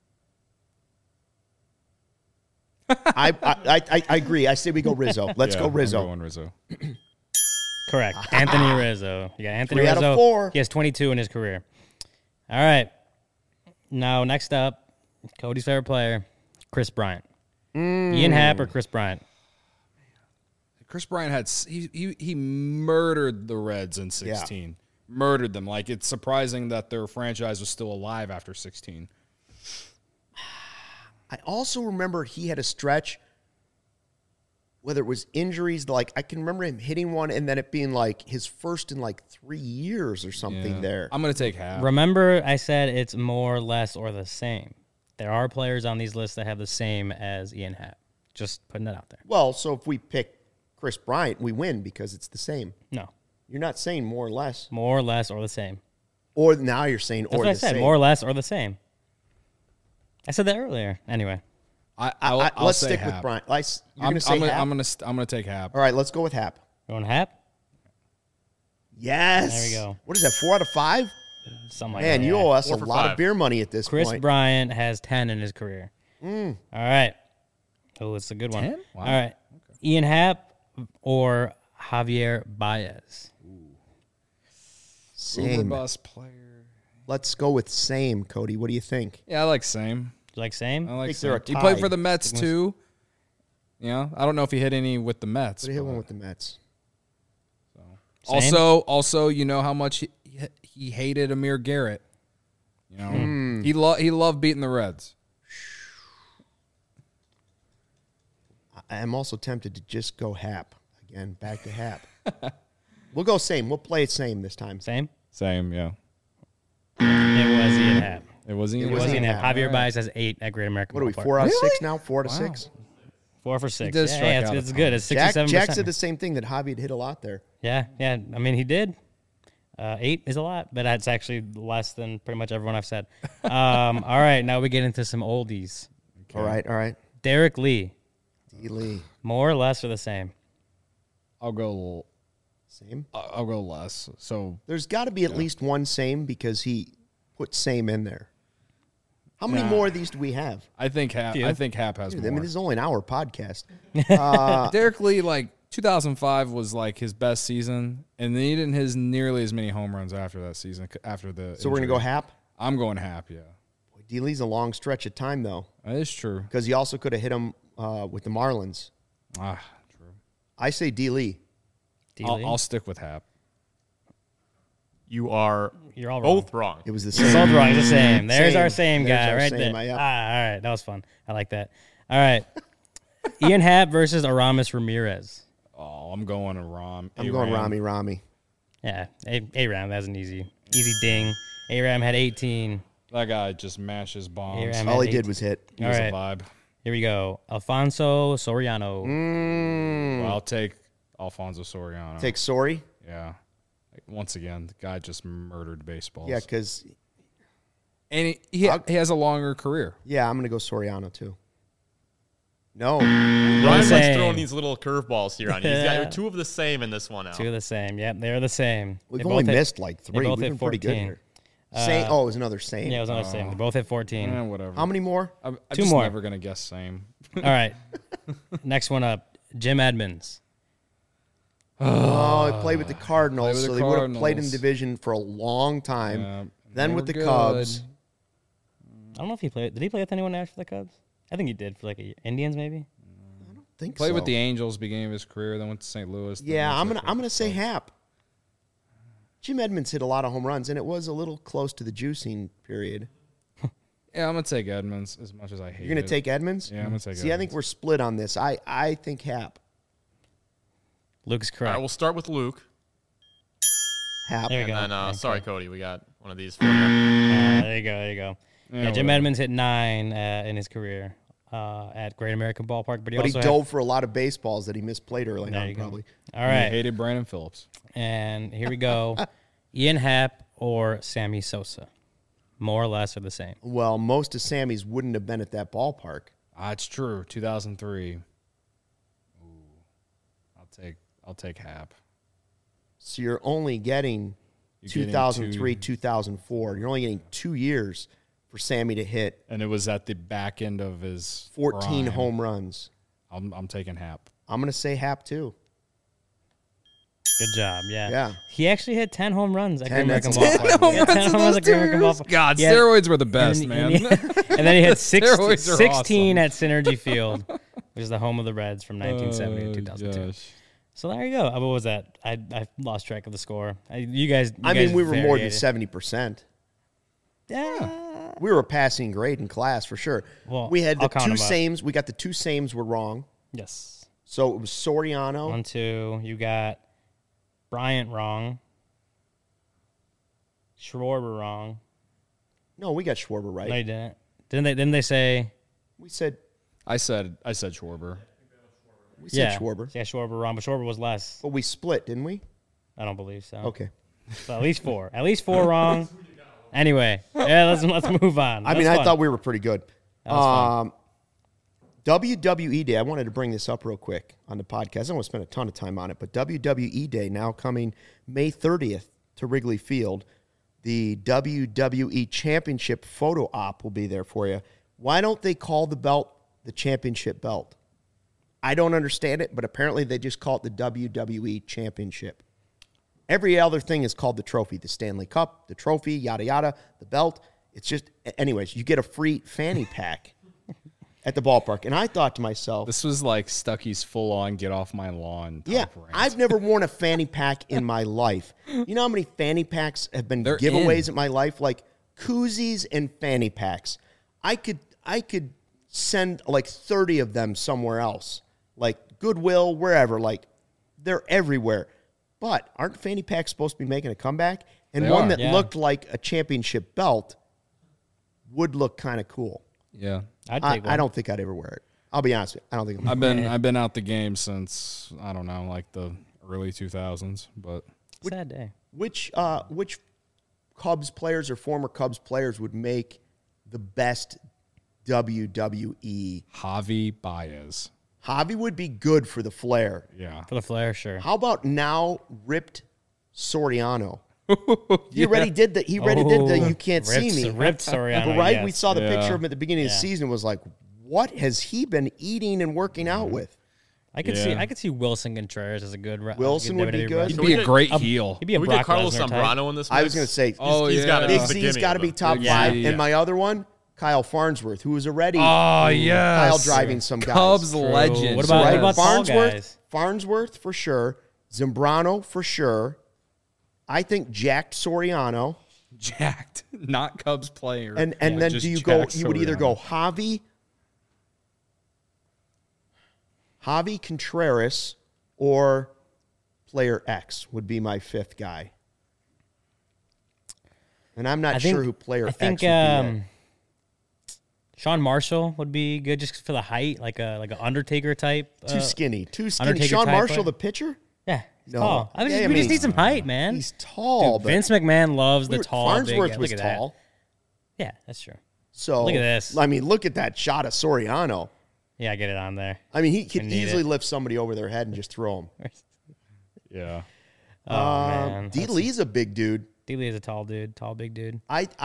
I agree. I say we go Rizzo. Let's Yeah, go I'm Rizzo. going Rizzo. Correct. Anthony Rizzo. You got Anthony 3 out Rizzo. of 4. He has 22 in his career. All right. Now, next up, Cody's favorite player, Chris Bryant. Ian Happ or Chris Bryant? Chris Bryant had he murdered the Reds in 16. Murdered them. Like, it's surprising that their franchise was still alive after 16. I also remember he had a stretch whether it was injuries, like I can remember him hitting one and then it being like his first in like 3 years or something there. I'm going to take Hap. Remember, I said it's more, less, or the same. There are players on these lists that have the same as Ian Happ. Just putting that out there. Well, so if we pick Chris Bryant, we win because it's the same. No. You're not saying more or less. More, less, or the same. Or now you're saying That's or what the I said. same. More, less, or the same. I said that earlier. Anyway. I'll let's say stick Hap. with Bryant. You're going to say Hap? I'm gonna take Hap. All right, let's go with Hap. Going Happ? Yes. There we go. What is that, 4 out of 5? Something like Man, that. you yeah. owe us 4 a for lot 5. of beer money at this Chris point. Bryant has 10 in his career. All right. Oh, it's a good one. 10? Wow. All right. Ian Happ or Javier Baez? Uber Same. bus player. Let's go with same, Cody. What do you think? Yeah, I like same. You like same? I like think they're same. a He played tie. for the Mets too. Yeah, I don't know if he hit any with the Mets. But he hit but- one with the Mets. Same? Also, you know how much he hated Amir Garrett. You know, he loved beating the Reds. I am also tempted to just go Hap. Again, back to Hap. We'll go same. We'll play it same this time. Same? Same, yeah. It was Ian Happ. It was Ian. It was Ian Happ. Happ. Javier Baez has 8 at Great American What are we, Ballpark. 4 out of 6 Really? now? 4 out of 6? 4 for 6. does Yeah, strike it's, out a it's ton. good. It's 67%. Jack said the same thing, that Javi had hit a lot there. Yeah. I mean, he did. 8 is a lot, but that's actually less than pretty much everyone I've said. All right, now we get into some oldies. All right. Derek Lee, D. Lee. more, less, or the same? I'll go. Same. I'll go less. So There's got to be at least one same because he put same in there. How many more of these do we have? I think Hap. Few. I think Hap has Dude, more. I mean, this is only an hour podcast. Derek Lee, like 2005 was like his best season, and then he didn't hit nearly as many home runs after that season. After the So we're going to go injury. Hap? I'm going Hap. Yeah, Boy, D. Lee's a long stretch of time, though, that is true. because he also could have hit him with the Marlins. True. I say D. Lee. D-Lee? I'll stick with Hap. You are You're all wrong. both wrong. It was the Both same. wrong. It's the same. There's our same There's guy our right same, there. yeah. All right. That was fun. I like that. All right. Ian Happ versus Aramis Ramirez. Oh, I'm going to Ram. I'm going Rami. Yeah. A-Ram, that's an easy ding. A-Ram had 18. That guy just mashes bombs. A-Ram All had he did 18. was hit. He All was right. a vibe. Here we go. Alfonso Soriano. Well, I'll take Alfonso Soriano. Take Sorry. Yeah. Like, once again, the guy just murdered baseballs. Yeah, because, and he has a longer career. I'm going to go Soriano, too. No. Ryan likes Same. throwing these little curveballs here on you. He's got 2 of the same in this one now. 2 of the same. Yep, they're the same. We've They only both hit- missed like 3. both We've hit been pretty good 14. here. Same. It was another same. Yeah, it was another same. They both hit 14. Whatever. How many more? I'm 2 just more. never going to guess same. All right. Next one up. Jim Edmonds. Oh, he played with the Cardinals, Played with so the they would have played in Cardinals. division for a long time. Yeah, Then they with were the good. Cubs. I don't know if he played. Did he play with anyone after the Cubs? I think he did for like Indians maybe. Think Played so. with the Angels beginning of his career, then went to St. Louis. then Yeah, went I'm to gonna say Cubs. Hap. Jim Edmonds hit a lot of home runs, and it was a little close to the juicing period. Yeah, I'm going to take Edmonds as much as I hate You're gonna it. take Edmonds? Yeah, I'm going to take See, I think Edmonds. we're split on this. I think Hap. Luke's All correct. right, we'll start with Luke. Hap. There we And go. then, Okay. sorry, Cody, we got one of these for you. There you go. There you go. Yeah, Yeah, Jim whatever. Edmonds hit 9 in his career at Great American Ballpark, but he But he also dove for a lot of baseballs that he misplayed early There on, you go. probably. All I right, hated Brandon Phillips. and here we go. Ian Happ or Sammy Sosa, more or less, are the same. Well, most of Sammy's wouldn't have been at that ballpark. It's true. 2003. Ooh, I'll take Hap. So you're only getting You're getting 2003, 2. 2004. You're only getting 2 years for Sammy to hit And it was at the back end of his 14 prime. home runs. I'm taking Hap. I'm going to say Hap, too. Good job. Yeah. Yeah. He actually hit 10 home runs at Great 10, American that's Ballpark. He had 10 home runs at Great American Ballpark. God, Yeah. steroids were the best, and, man. And then he had Steroids are 16 awesome. at Synergy Field, which is the home of the Reds from 1970 to 2002. Gosh. So there you go. What was that? I lost track of the score. You guys. I mean, we were more than variated. 70%. Yeah. We were a passing grade in class for sure. Well, we had the I'll count 2 them up. sames. We got the 2 sames were wrong. Yes. So it was Soriano. 1, 2. You got Bryant wrong. Schwarber wrong. No, we got Schwarber right. No, you didn't. Didn't they say? We said Schwarber. Schwarber. Yeah, Schwarber wrong, but Schwarber was less. But we split, didn't we? I don't believe so. Okay. So at least 4. At least 4 wrong. Anyway, yeah, let's move on. I mean, I thought we were pretty good. That was fun. WWE Day. I wanted to bring this up real quick on the podcast. I don't want to spend a ton of time on it, but WWE Day now coming May 30th to Wrigley Field. The WWE Championship photo op will be there for you. Why don't they call the belt the championship belt? I don't understand it, but apparently they just call it the WWE Championship. Every other thing is called the trophy, the Stanley Cup, the trophy, yada, yada, the belt. It's just, anyways, you get a free fanny pack at the ballpark. And I thought to myself, This was like Stucky's full-on get off my lawn. yeah, rant. I've never worn a fanny pack in my life. You know how many fanny packs have been They're giveaways in. in my life? Like koozies and fanny packs. I could send like 30 of them somewhere else, like Goodwill, wherever. Like they're everywhere. But aren't fanny packs supposed to be making a comeback? And They one are. that Yeah. looked like a championship belt would look kind of cool. Yeah. I'd I take one. don't think I'd ever wear it. I'll be honest with you. I don't think I've been out the game since, I don't know, like the early 2000s, but Sad day. Which Cubs players or former Cubs players would make the best WWE? Javi Baez. Javi would be good for the flair. Yeah. For the flare, sure. How about now ripped Soriano? He already did the you can't see me. Ripped Soriano, Right? yes. We saw the Yeah. picture of him at the beginning of the Yeah. season, was like, what has he been eating and working out with? I could see Wilson Contreras as a good Wilson would be WWE good. wrestler. He'd So be we a get- great heel. He'd be a Can we Brock get Carlos Lesnar type. Zambrano in this mix? I was going to say, Oh, he's got to be Big the Z's beginning got to of be it. top Yeah. five. Yeah. And my other one, Kyle Farnsworth, who was already Oh, yeah. Kyle driving some guys. Cubs True. legend. What about- Right? what about tall Farnsworth, guys? Farnsworth for sure. Zambrano for sure. I think jacked Soriano. Jacked, not Cubs player. And then just do you go? jacked You would either go Soriano. Javi Contreras, or player X would be my fifth guy. And I'm not sure who player I think X would be. Sean Marshall would be good just for the height, like an Undertaker type. Too skinny. Undertaker Sean type Marshall, player. the pitcher? Yeah, he's No. tall. I mean, Yeah, I we mean, just need some height, man. He's tall, Dude, but Vince McMahon loves the tall. Farnsworth big, was look at that. tall. Yeah, that's true. So Look at this. I mean, look at that shot of Soriano. Yeah, get it on there. I mean, he could I need easily it. lift somebody over their head and just throw him. Yeah. Oh man, D. Lee's a big dude. D-Lee is a tall dude, tall big dude.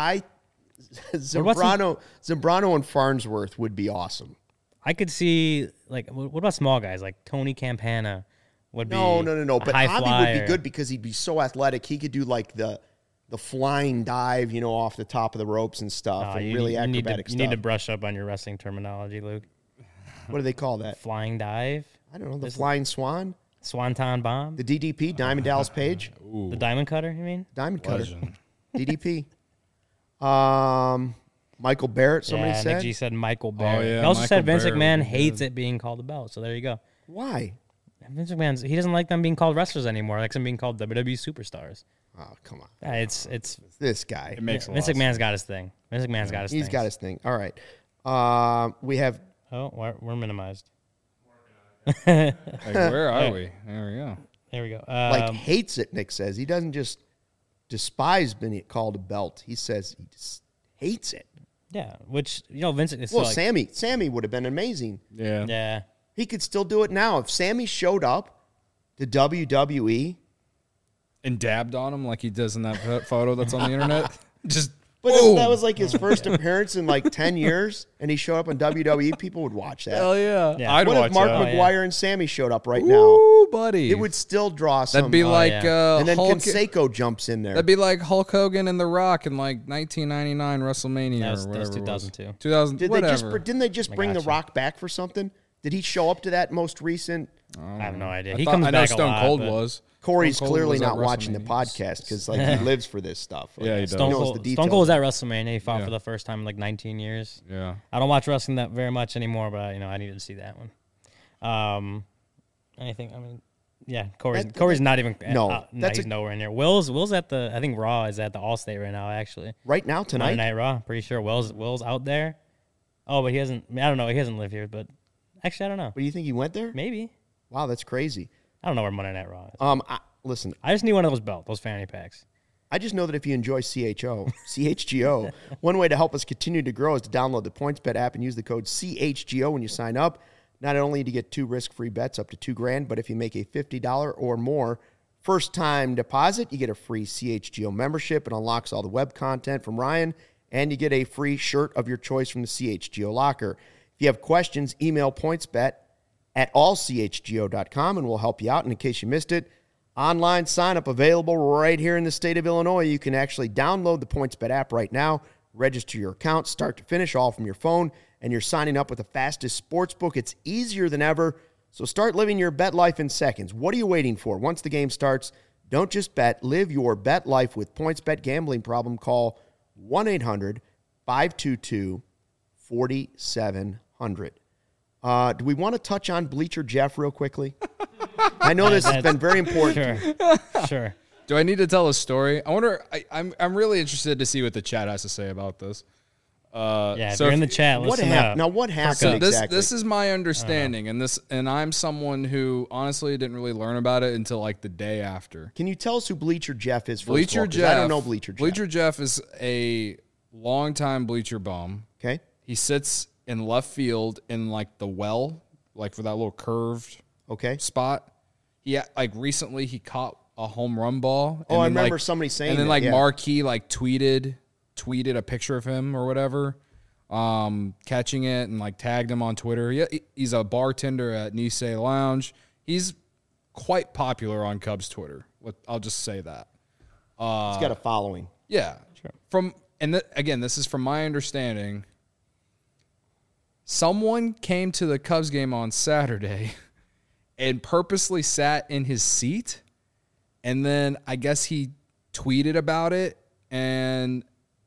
Zambrano and Farnsworth would be awesome. I could see like what about small guys like Tony Campana would be No. a But high Javi flyer. would be good because he'd be so athletic. He could do like the flying dive, off the top of the ropes and stuff, Oh, and you really need- acrobatic you stuff. need to brush up on your wrestling terminology, Luke. What do they call that? Flying dive, I don't know. The flying swan, swanton bomb, the DDP, Diamond Dallas Page, the diamond cutter. You mean? Diamond Cutter, Legend. DDP. Michael Barrett. Somebody yeah, said. Nick G said Michael Barrett. yeah, he also Michael said Vince Barrett McMahon would be hates good. it being called a belt. So there you go. Why? Vince McMahon, he doesn't like them being called wrestlers anymore. He likes them being called WWE superstars. Oh, come on. Yeah, it's This guy. It makes a Vince lot of McMahon's got his thing. Vince McMahon's got his thing. He's got his thing. All right. We have Oh, we're minimized. Like, where are we? There we go. There we go. hates it. Nick says he doesn't just despise being called a belt. He says he just hates it. Yeah, which Vince. It's Well, like, Sammy would have been amazing. Yeah. yeah. He could still do it now. If Sammy showed up to WWE, And dabbed on him like he does in that photo that's on the internet. Just but boom. if that was like his first appearance in like 10 years, and he showed up on WWE, people would watch that. Hell yeah. Yeah. I'd What watch if Mark that. McGuire and Sammy showed up right now? Ooh, buddy. It would still draw some. That'd be like yeah. and then Hulk. Canseco jumps in there. That'd be like Hulk Hogan and The Rock in like 1999 WrestleMania That was or whatever. 2002. 2000. Didn't they just I bring The gotcha. Rock back for something? Did he show up to that most recent? I have no idea. I He thought- comes I know back Stone a lot, Cold but was. Corey's Stone Cold clearly was at not watching the WrestleMania. podcast because like he lives for this stuff. Like, Yeah, he does. Stone knows Cold, the Stone details. Cold was at WrestleMania. He fought Yeah. for the first time in like 19 years. Yeah. I don't watch wrestling that very much anymore, but I needed to see that one. anything. I mean, yeah, Corey's not even. No, he's nowhere near. Will's at the. I think Raw is at the Allstate right now. Actually, right now tonight. Monday Night Raw. Pretty sure Will's out there. Oh, but he hasn't. I don't know. He hasn't lived here, but actually, I don't know. But do you think he went there? Maybe. Wow, that's crazy. I don't know where Monday Night Raw is. Listen, I just need one of those belts, those fanny packs. I just know that if you enjoy CHGO, one way to help us continue to grow is to download the PointsBet app and use the code CHGO when you sign up. Not only do you get 2 risk-free bets up to $2,000, but if you make a $50 or more first-time deposit, you get a free CHGO membership. It unlocks all the web content from Ryan, and you get a free shirt of your choice from the CHGO locker. If you have questions, email pointsbet@allchgo.com, and we'll help you out. And in case you missed it, online sign-up available right here in the state of Illinois. You can actually download the PointsBet app right now, register your account, start to finish, all from your phone, and you're signing up with the fastest sports book. It's easier than ever, so start living your bet life in seconds. What are you waiting for? Once the game starts, don't just bet. Live your bet life with PointsBet. Gambling problem, call 1-800-522-4700. Do we want to touch on Bleacher Jeff real quickly? I know this has been very important. Sure. Do I need to tell a story? I wonder. I'm really interested to see what the chat has to say about this. If you're in the chat, What listen happened? up. Now, what happened So exactly? this is my understanding, and I'm someone who honestly didn't really learn about it until like the day after. Can you tell us who Bleacher Jeff is? First Bleacher of all, 'cause Jeff. I don't know Bleacher Jeff. Bleacher Jeff is a longtime Bleacher bum. Okay. He sits in left field in like the well, like for that little curved Okay. spot. He recently he caught a home run ball. Oh, I then, remember somebody saying and then that, yeah. Marquee tweeted a picture of him or whatever, catching it and tagged him on Twitter. Yeah, he's a bartender at Nisei Lounge. He's quite popular on Cubs Twitter. I'll just say that. He's got a following. Yeah. Sure. Again, this is from my understanding. Someone came to the Cubs game on Saturday and purposely sat in his seat, and then I guess he tweeted about it, and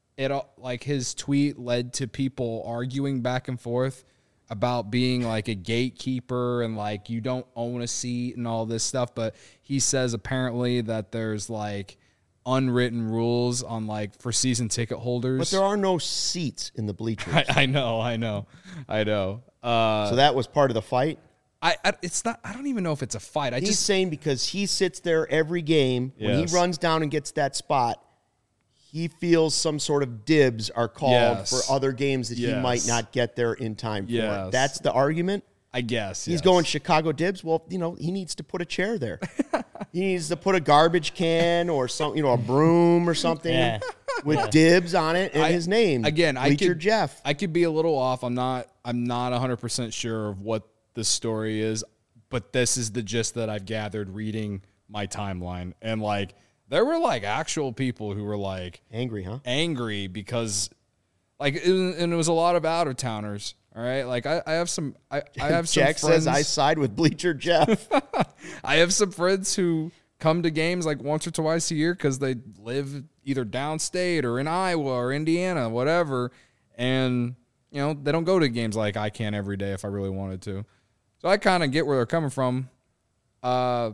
his tweet led to people arguing back and forth about being a gatekeeper and you don't own a seat and all this stuff. But he says apparently that there's unwritten rules on for season ticket holders. But there are no seats in the bleachers. I know. So that was part of the fight? It's not. I don't even know if it's a fight. He's saying because he sits there every game, when he runs down and gets that spot, he feels some sort of dibs are called for other games that he might not get there in time for. That's the argument? I guess. He's going Chicago dibs. Well, he needs to put a chair there. He needs to put a garbage can or something, a broom or something with dibs on it and his name. Again, Bleacher Jeff. I could be a little off. I'm not 100% sure of what the story is, but this is the gist that I've gathered reading my timeline. And there were actual people who were angry, huh? Angry because and it was a lot of out of towners. All right. I have some, I have some Jack friends. says I side with Bleacher Jeff. I have some friends who come to games once or twice a year because they live either downstate or in Iowa or Indiana, whatever. And, they don't go to games like I can every day if I really wanted to. So I kind of get where they're coming from. But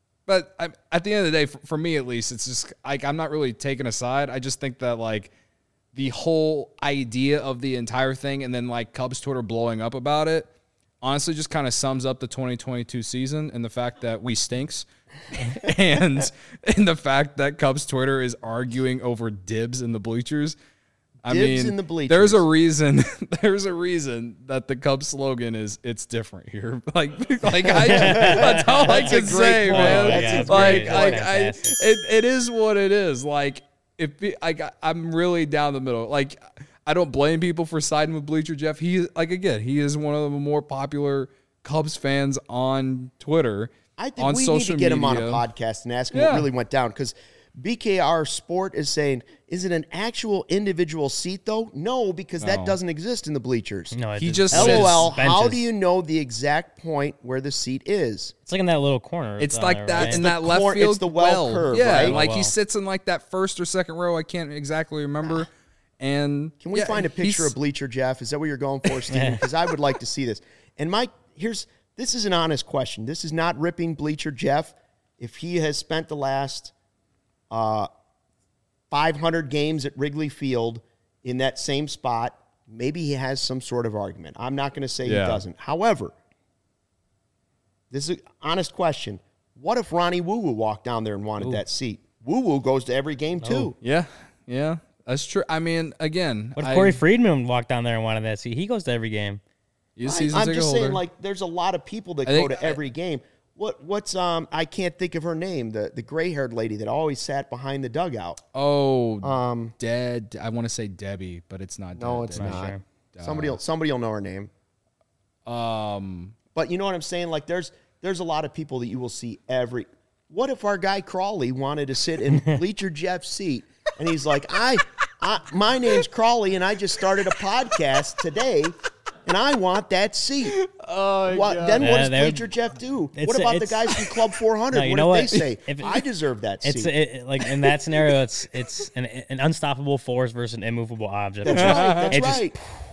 at the end of the day, for me at least, it's just I'm not really taking a side. I just think that the whole idea of the entire thing and then Cubs Twitter blowing up about it honestly just kind of sums up the 2022 season and the fact that we stinks and the fact that Cubs Twitter is arguing over dibs in the bleachers. Dibs in the bleachers. There's a reason that the Cubs slogan is "It's different here." That's all I can say, man. It is what it is. I'm really down the middle. I don't blame people for siding with Bleacher Jeff. He is one of the more popular Cubs fans on Twitter. I think on we social need to get him media. on a podcast and ask him what really went down because BKR Sport is saying, is it an actual individual seat, though? No, because that doesn't exist in the bleachers. No, He just LOL, benches. how do you know the exact point where the seat is? It's in that little corner. It's on like there, that right? in the that left corner- field. it's the well curve, yeah, right? he sits in that first or second row. I can't exactly remember. And Can we find a picture of Bleacher Jeff? Is that what you're going for, Steve? Because I would like to see this. And Mike, here's this is an honest question. This is not ripping Bleacher Jeff. If he has spent the last 500 games at Wrigley Field in that same spot, maybe he has some sort of argument. I'm not going to say he doesn't. However, this is an honest question. What if Ronnie Woo Woo walked down there and wanted that seat? Woo Woo goes to every game too. Yeah, that's true. I mean, again, What if Corey Friedman walked down there and wanted that seat? He goes to every game. He's a season I'm ticket just holder. saying, like, there's a lot of people that go to every game. What's I can't think of her name, the gray-haired lady that always sat behind the dugout. Dead. I want to say Debbie, but it's not. No, Debbie. it's not. Sure. Somebody will know her name. But you know what I'm saying? Like, there's a lot of people that you will see every. What if our guy Crawley wanted to sit in Bleacher Jeff's seat, and he's like, my name's Crawley, and I just started a podcast today, and I want that seat. Oh, then what does Bleacher Jeff do? What about the guys from Club 400? No, what if they say, I deserve that seat? Like in that scenario, it's an unstoppable force versus an immovable object. That's right.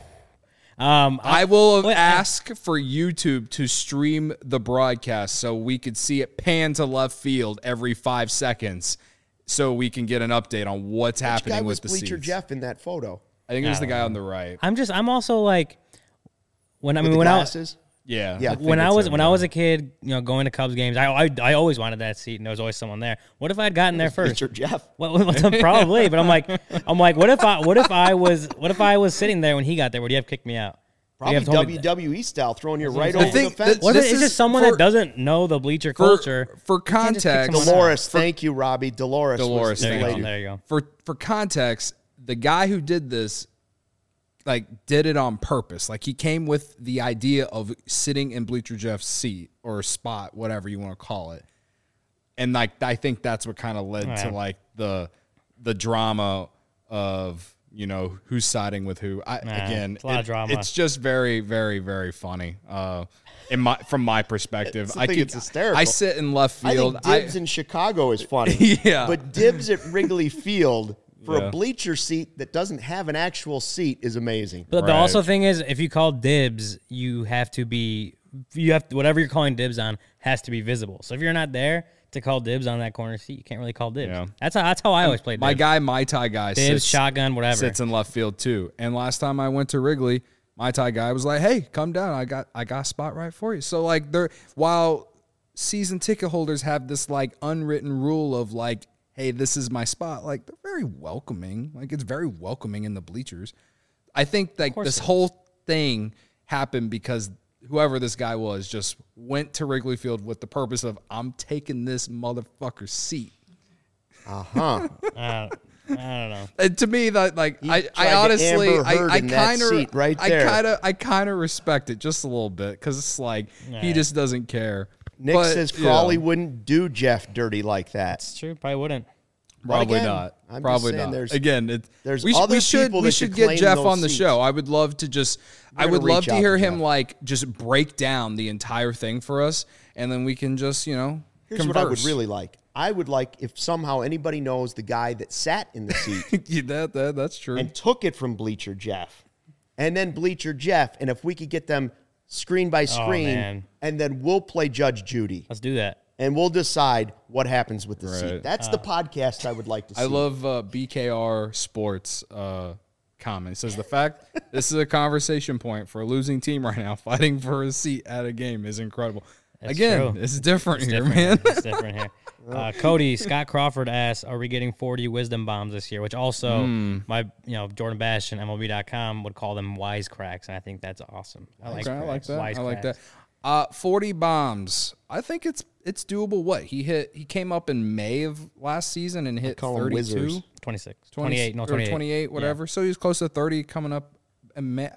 I will ask for YouTube to stream the broadcast so we could see it pan to left field every 5 seconds, so we can get an update on what's happening with the Bleacher seats. Jeff in that photo? I think it was the guy on the right. I'm also like when Glasses? Yeah. Yeah. when I was a kid, going to Cubs games, I always wanted that seat, and there was always someone there. What if I had gotten there first? Bleacher Jeff. Probably, but I'm like, what if I was sitting there when he got there? Would he have kicked me out? Probably WWE style, throwing you right over the fence. What if it's just someone that doesn't know the bleacher culture? For context, Dolores, thank you, Robbie. Dolores, There you go. For context, the guy who did this, did it on purpose. Like, he came with the idea of sitting in Bleacher Jeff's seat or spot, whatever you want to call it. And I think that's what kind of led to the drama of who's siding with who. It's a lot of drama. It's just very, very, very funny. From my perspective, it's hysterical. I sit in left field. I think Dibs in Chicago is funny. Yeah, but Dibs at Wrigley Field for a bleacher seat that doesn't have an actual seat is amazing. But the also thing is, if you call dibs, whatever you're calling dibs on has to be visible. So if you're not there to call dibs on that corner seat, you can't really call dibs. Yeah. That's how I always played dibs. My guy, my Thai guy, dibs, shotgun, whatever, sits in left field too. And last time I went to Wrigley, my Thai guy was like, "Hey, come down. I got a spot right for you." So while season ticket holders have this unwritten rule of hey, this is my spot, they're very welcoming. It's very welcoming in the bleachers. I think this whole thing happened because whoever this guy was just went to Wrigley Field with the purpose of, I'm taking this motherfucker's seat. I don't know. And to me, I honestly, I kind of respect it just a little bit because it's he just doesn't care. Nick says Crawley wouldn't do Jeff dirty like that. That's true. Probably wouldn't. Probably not. Probably not. Again, we should get Jeff on the show. I would love to to hear him just break down the entire thing for us, and then we can just Here's converse. what I would really like. I would like if somehow anybody knows the guy that sat in the seat. That's true. And took it from Bleacher Jeff, and then Bleacher Jeff, and if we could get them screen by screen, and then we'll play Judge Judy. Let's do that. And we'll decide what happens with the seat. That's the podcast I would like to see. I love BKR Sports comment. It says, the fact this is a conversation point for a losing team right now, fighting for a seat at a game is incredible. That's true. It's different here, man. It's different here. Cody, Scott Crawford asks, are we getting 40 wisdom bombs this year? Which also my Jordan Bash and MLB.com would call them wisecracks, and I think that's awesome. I like that. I like that. 40 bombs. I think it's doable. What he came up in May of last season and hit 32, 26, 28, 28, whatever. Yeah. So he's close to 30 coming up in May.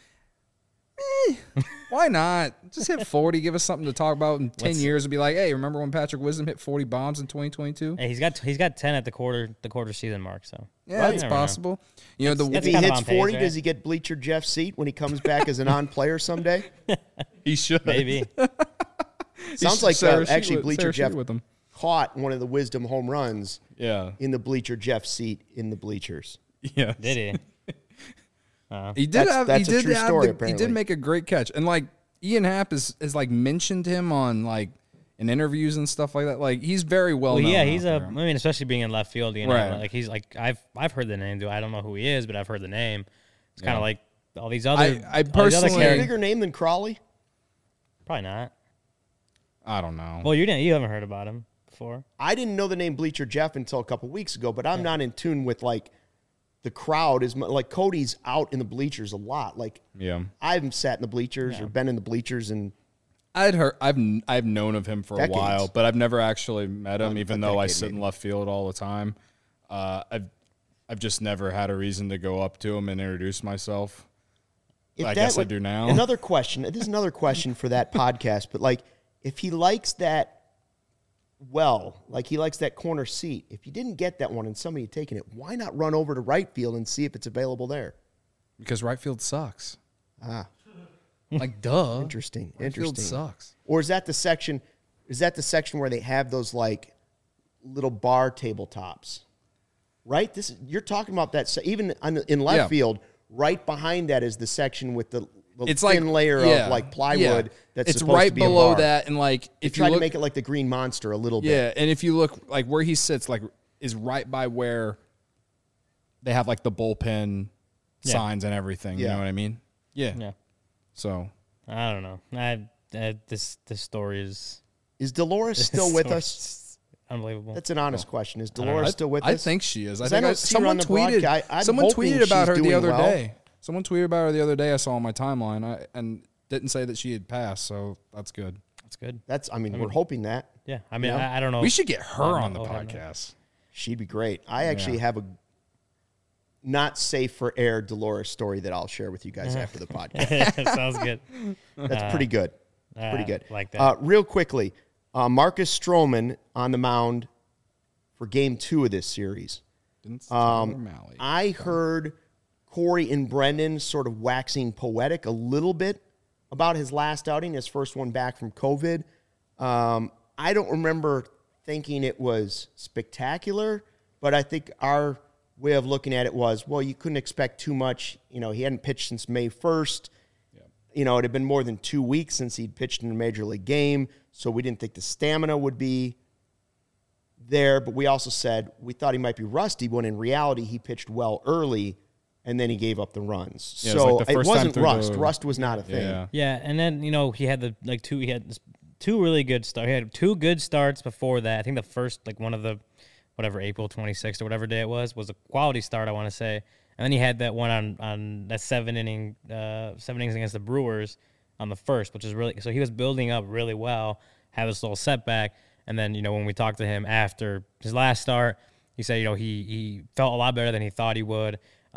Why not? Just hit 40. Give us something to talk about in 10 years and be like, hey, remember when Patrick Wisdom hit 40 bombs in 2022? Hey, he's got 10 at the quarter season mark. So yeah, it's possible. If he hits 40, does he get Bleacher Jeff's seat when he comes back as a non-player someday? He should. Maybe. Sounds like actually Bleacher Jeff caught one of the Wisdom home runs. In the Bleacher Jeff seat in the bleachers. Yeah, did he? He did make a great catch, and Ian Happ is like mentioned him on like in interviews and stuff like that. Like he's very well known. Yeah, he's out I there. mean, especially being in left field, you know, Right. like he's like I've heard the name. Dude, I don't know who he is, but I've heard the name. It's kind Yeah. of like all these other. I all these other personally- Is he a characters- bigger name than Crawley? probably not. I don't know. Well, you haven't heard about him before. I didn't know the name Bleacher Jeff until a couple weeks ago, but I'm not in tune with like the crowd. Like Cody's out in the bleachers a lot. Like yeah. I haven't sat in the bleachers or been in the bleachers, and I've known of him for Decades. a while, but I've never actually met him, even though I decade, sit in maybe. left field all the time. I've just never had a reason to go up to him and introduce myself. if I that guess I would- do now. Another question. This is another question for that podcast, but like if he likes that like he likes that corner seat, if you didn't get that one and somebody had taken it, why not run over to right field and see if it's available there? Because right field sucks. Ah, Like, duh. interesting. Right field Interesting. sucks. Or is that the section? Is that the section where they have those like little bar tabletops? Right. You're talking about that. Even in left Yeah. field, right behind that is the section with the It's thin like layer yeah, of like plywood. yeah. That's it's supposed right to be a below bar. that, and like They if you tried look, to make it like the Green Monster a little bit. yeah, and if you look like where he sits, like is right by where they have like the bullpen Yeah. signs and everything. You Yeah. know what I mean? Yeah. Yeah, So I don't know. This story is Is Dolores still with us? unbelievable. That's an honest question. Is know. Dolores still with I us? think she is. I 'Cause think I don't see her someone on the tweeted. broadcast. I'm Someone hoping tweeted about she's her the doing other well. day. Someone tweeted about her the other day. I saw on my timeline. And didn't say that she had passed. So that's good. That's good. I mean, we're hoping that. Yeah, I mean, Yeah. I don't know. We should get her I on the don't know. podcast. She'd be great. I actually have a not safe for air Dolores story that I'll share with you guys after the podcast. Sounds good. That's pretty good. Pretty good. Like that. Real quickly, Marcus Stroman on the mound for Game 2 of this series. O'Malley. I heard Corey and Brendan sort of waxing poetic a little bit about his last outing, his first one back from COVID. I don't remember thinking it was spectacular, but I think our way of looking at it was, well, you couldn't expect too much. You know, he hadn't pitched since May 1st. You know, it had been more than 2 weeks since he'd pitched in a major league game, so we didn't think the stamina would be there. But we also said we thought he might be rusty, when in reality he pitched well early, and then he gave up the runs. Yeah, it was so like the it first time wasn't through rust. the- Rust was not a thing. Yeah. Yeah, and then he had he had two really good starts. He had two good starts before that. I think the first one of the whatever April 26th or whatever day it was a quality start, I want to say. And then he had that one on that 7 innings against the Brewers on the first, which is really so he was building up really well, had this little setback, and then when we talked to him after his last start, he said he felt a lot better than he thought he would.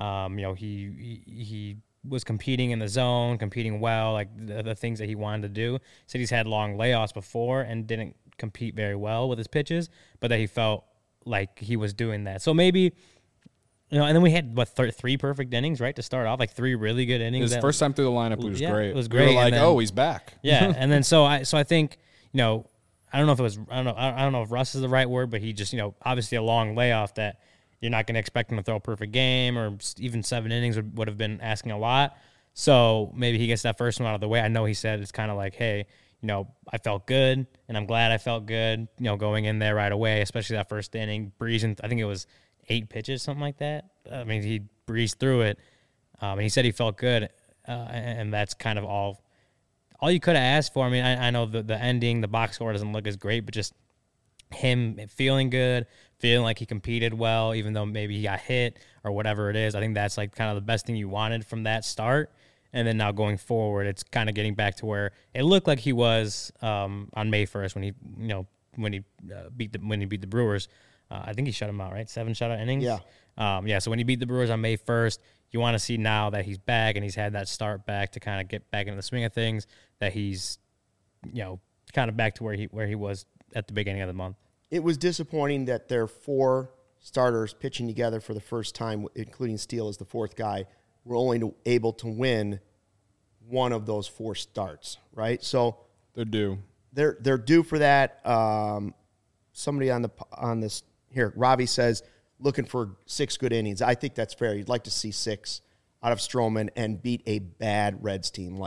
He was competing in the zone, competing well, like the things that he wanted to do. He said he's had long layoffs before and didn't compete very well with his pitches, but that he felt like he was doing that. So maybe, and then we had, 3 perfect innings, right, to start off, like 3 really good innings. His first time through the lineup, it was Yeah, great. it was We were great, like, and then- oh, he's back. Yeah, and then so I think I don't know if it was I don't know if rust is the right word, but he just obviously a long layoff that you're not going to expect him to throw a perfect game, or even 7 innings would have been asking a lot. So maybe he gets that first one out of the way. I know he said it's kind of like, hey, I felt good, and I'm glad I felt good, going in there right away, especially that first inning, breezing. I think it was 8 pitches, something like that. I mean, he breezed through it, and he said he felt good, and that's kind of all you could have asked for. I mean, I know the ending, the box score doesn't look as great, but just him feeling good, feeling like he competed well, even though maybe he got hit or whatever it is. I think that's kind of the best thing you wanted from that start. And then now going forward, it's kind of getting back to where it looked like he was on May 1st when he beat the Brewers. I think he shut him out, right? 7 shutout innings. Yeah. So when he beat the Brewers on May 1st, you want to see now that he's back and he's had that start back to kind of get back into the swing of things, that he's kind of back to where he was at the beginning of the month. It was disappointing that their 4 starters pitching together for the first time, including Steele as the 4th guy, were only able to win one of those 4 starts, right? So They're due. they're due for that. Somebody on this here, Ravi says, looking for 6 good innings. I think that's fair. You'd like to see 6 out of Stroman and beat a bad Reds team. Like,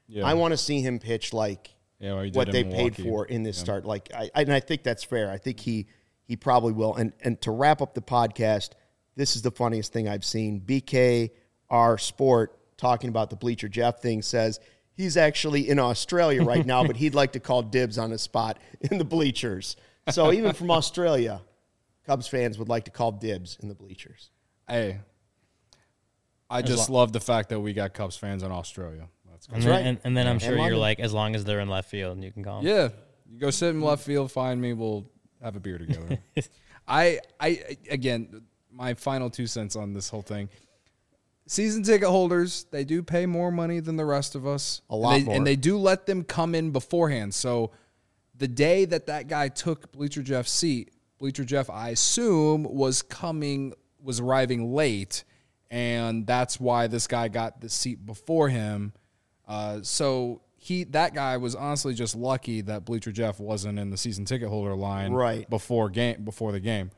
Yeah. I want to see him pitch like Yeah, he did what in they paid Milwaukee. for in this start. Like, and I think that's fair. I think he probably will. And to wrap up the podcast, this is the funniest thing I've seen. BKR Sport, talking about the Bleacher Jeff thing, says he's actually in Australia right now, but he'd like to call dibs on his spot in the bleachers. So even from Australia, Cubs fans would like to call dibs in the bleachers. Hey, I just love the fact that we got Cubs fans in Australia. That's And cool. then, and then I'm sure you're London. like, as long as they're in left field, you can call them. Yeah, you go sit in left field, find me, we'll have a beer together. Again, my final 2 cents on this whole thing. Season ticket holders, they do pay more money than the rest of us. A lot more. And they do let them come in beforehand. So the day that guy took Bleacher Jeff's seat, Bleacher Jeff, I assume, was arriving late, and that's why this guy got the seat before him. So that guy was honestly just lucky that Bleacher Jeff wasn't in the season ticket holder line Right. before the game.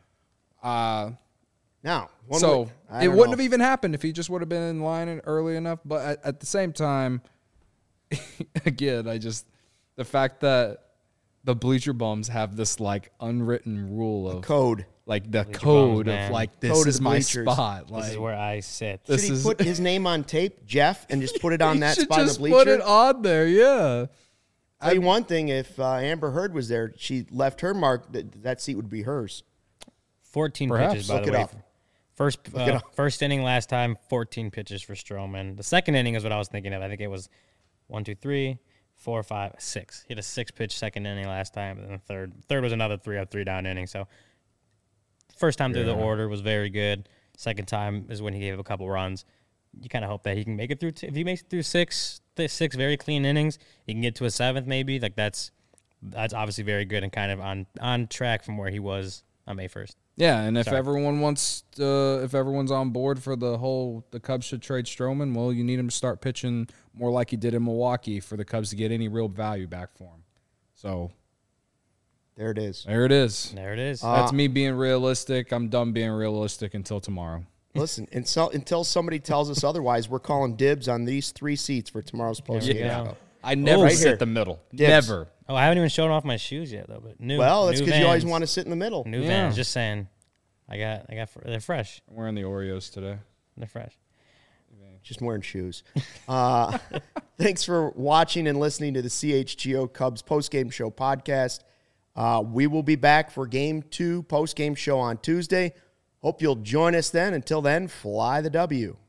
Now, It wouldn't have even happened if he just would have been in line early enough. But at the same time, again, the fact that the Bleacher Bums have this like unwritten rule of code. like the Bleacher code Bums, of man. like this Code of is the my bleachers. spot. Like This is where I sit. this Should he is put his name on tape, Jeff, and just put it on he that should spot in the just bleacher? put it on there. Yeah. Tell you one thing, if Amber Heard was there, she left her mark, that seat would be hers. 14 Perhaps. pitches, by Look the it way. up. First inning last time, 14 pitches for Stroman. The second inning is what I was thinking of. I think it was 1, 2, 3, 4, 5, 6. He had a 6-pitch second inning last time, and then the third was another 3-up, 3-down inning. So first time through the order was very good. Second time is when he gave up a couple runs. You kind of hope that he can make it through. If he makes it through six very clean innings, he can get to a seventh maybe. Like that's obviously very good and kind of on track from where he was on May 1st. Yeah, and if Sorry. everyone's on board for the Cubs should trade Stroman, well, you need him to start pitching more like he did in Milwaukee for the Cubs to get any real value back for him. So There it is. there it is. There it is. That's me being realistic. I'm done being realistic until tomorrow. Listen, until somebody tells us otherwise, we're calling dibs on these 3 seats for tomorrow's post we game. go. I never right sit here. the middle. Dibs. Never. Oh, I haven't even shown off my shoes yet though. But new. Well, that's new because you always Vans. want to sit in the middle. New Yeah. Vans. Just saying. They're fresh. I'm wearing the Oreos today. They're fresh. Just wearing shoes. Thanks for watching and listening to the CHGO Cubs postgame show podcast. We will be back for Game 2 postgame show on Tuesday. Hope you'll join us then. Until then, fly the W.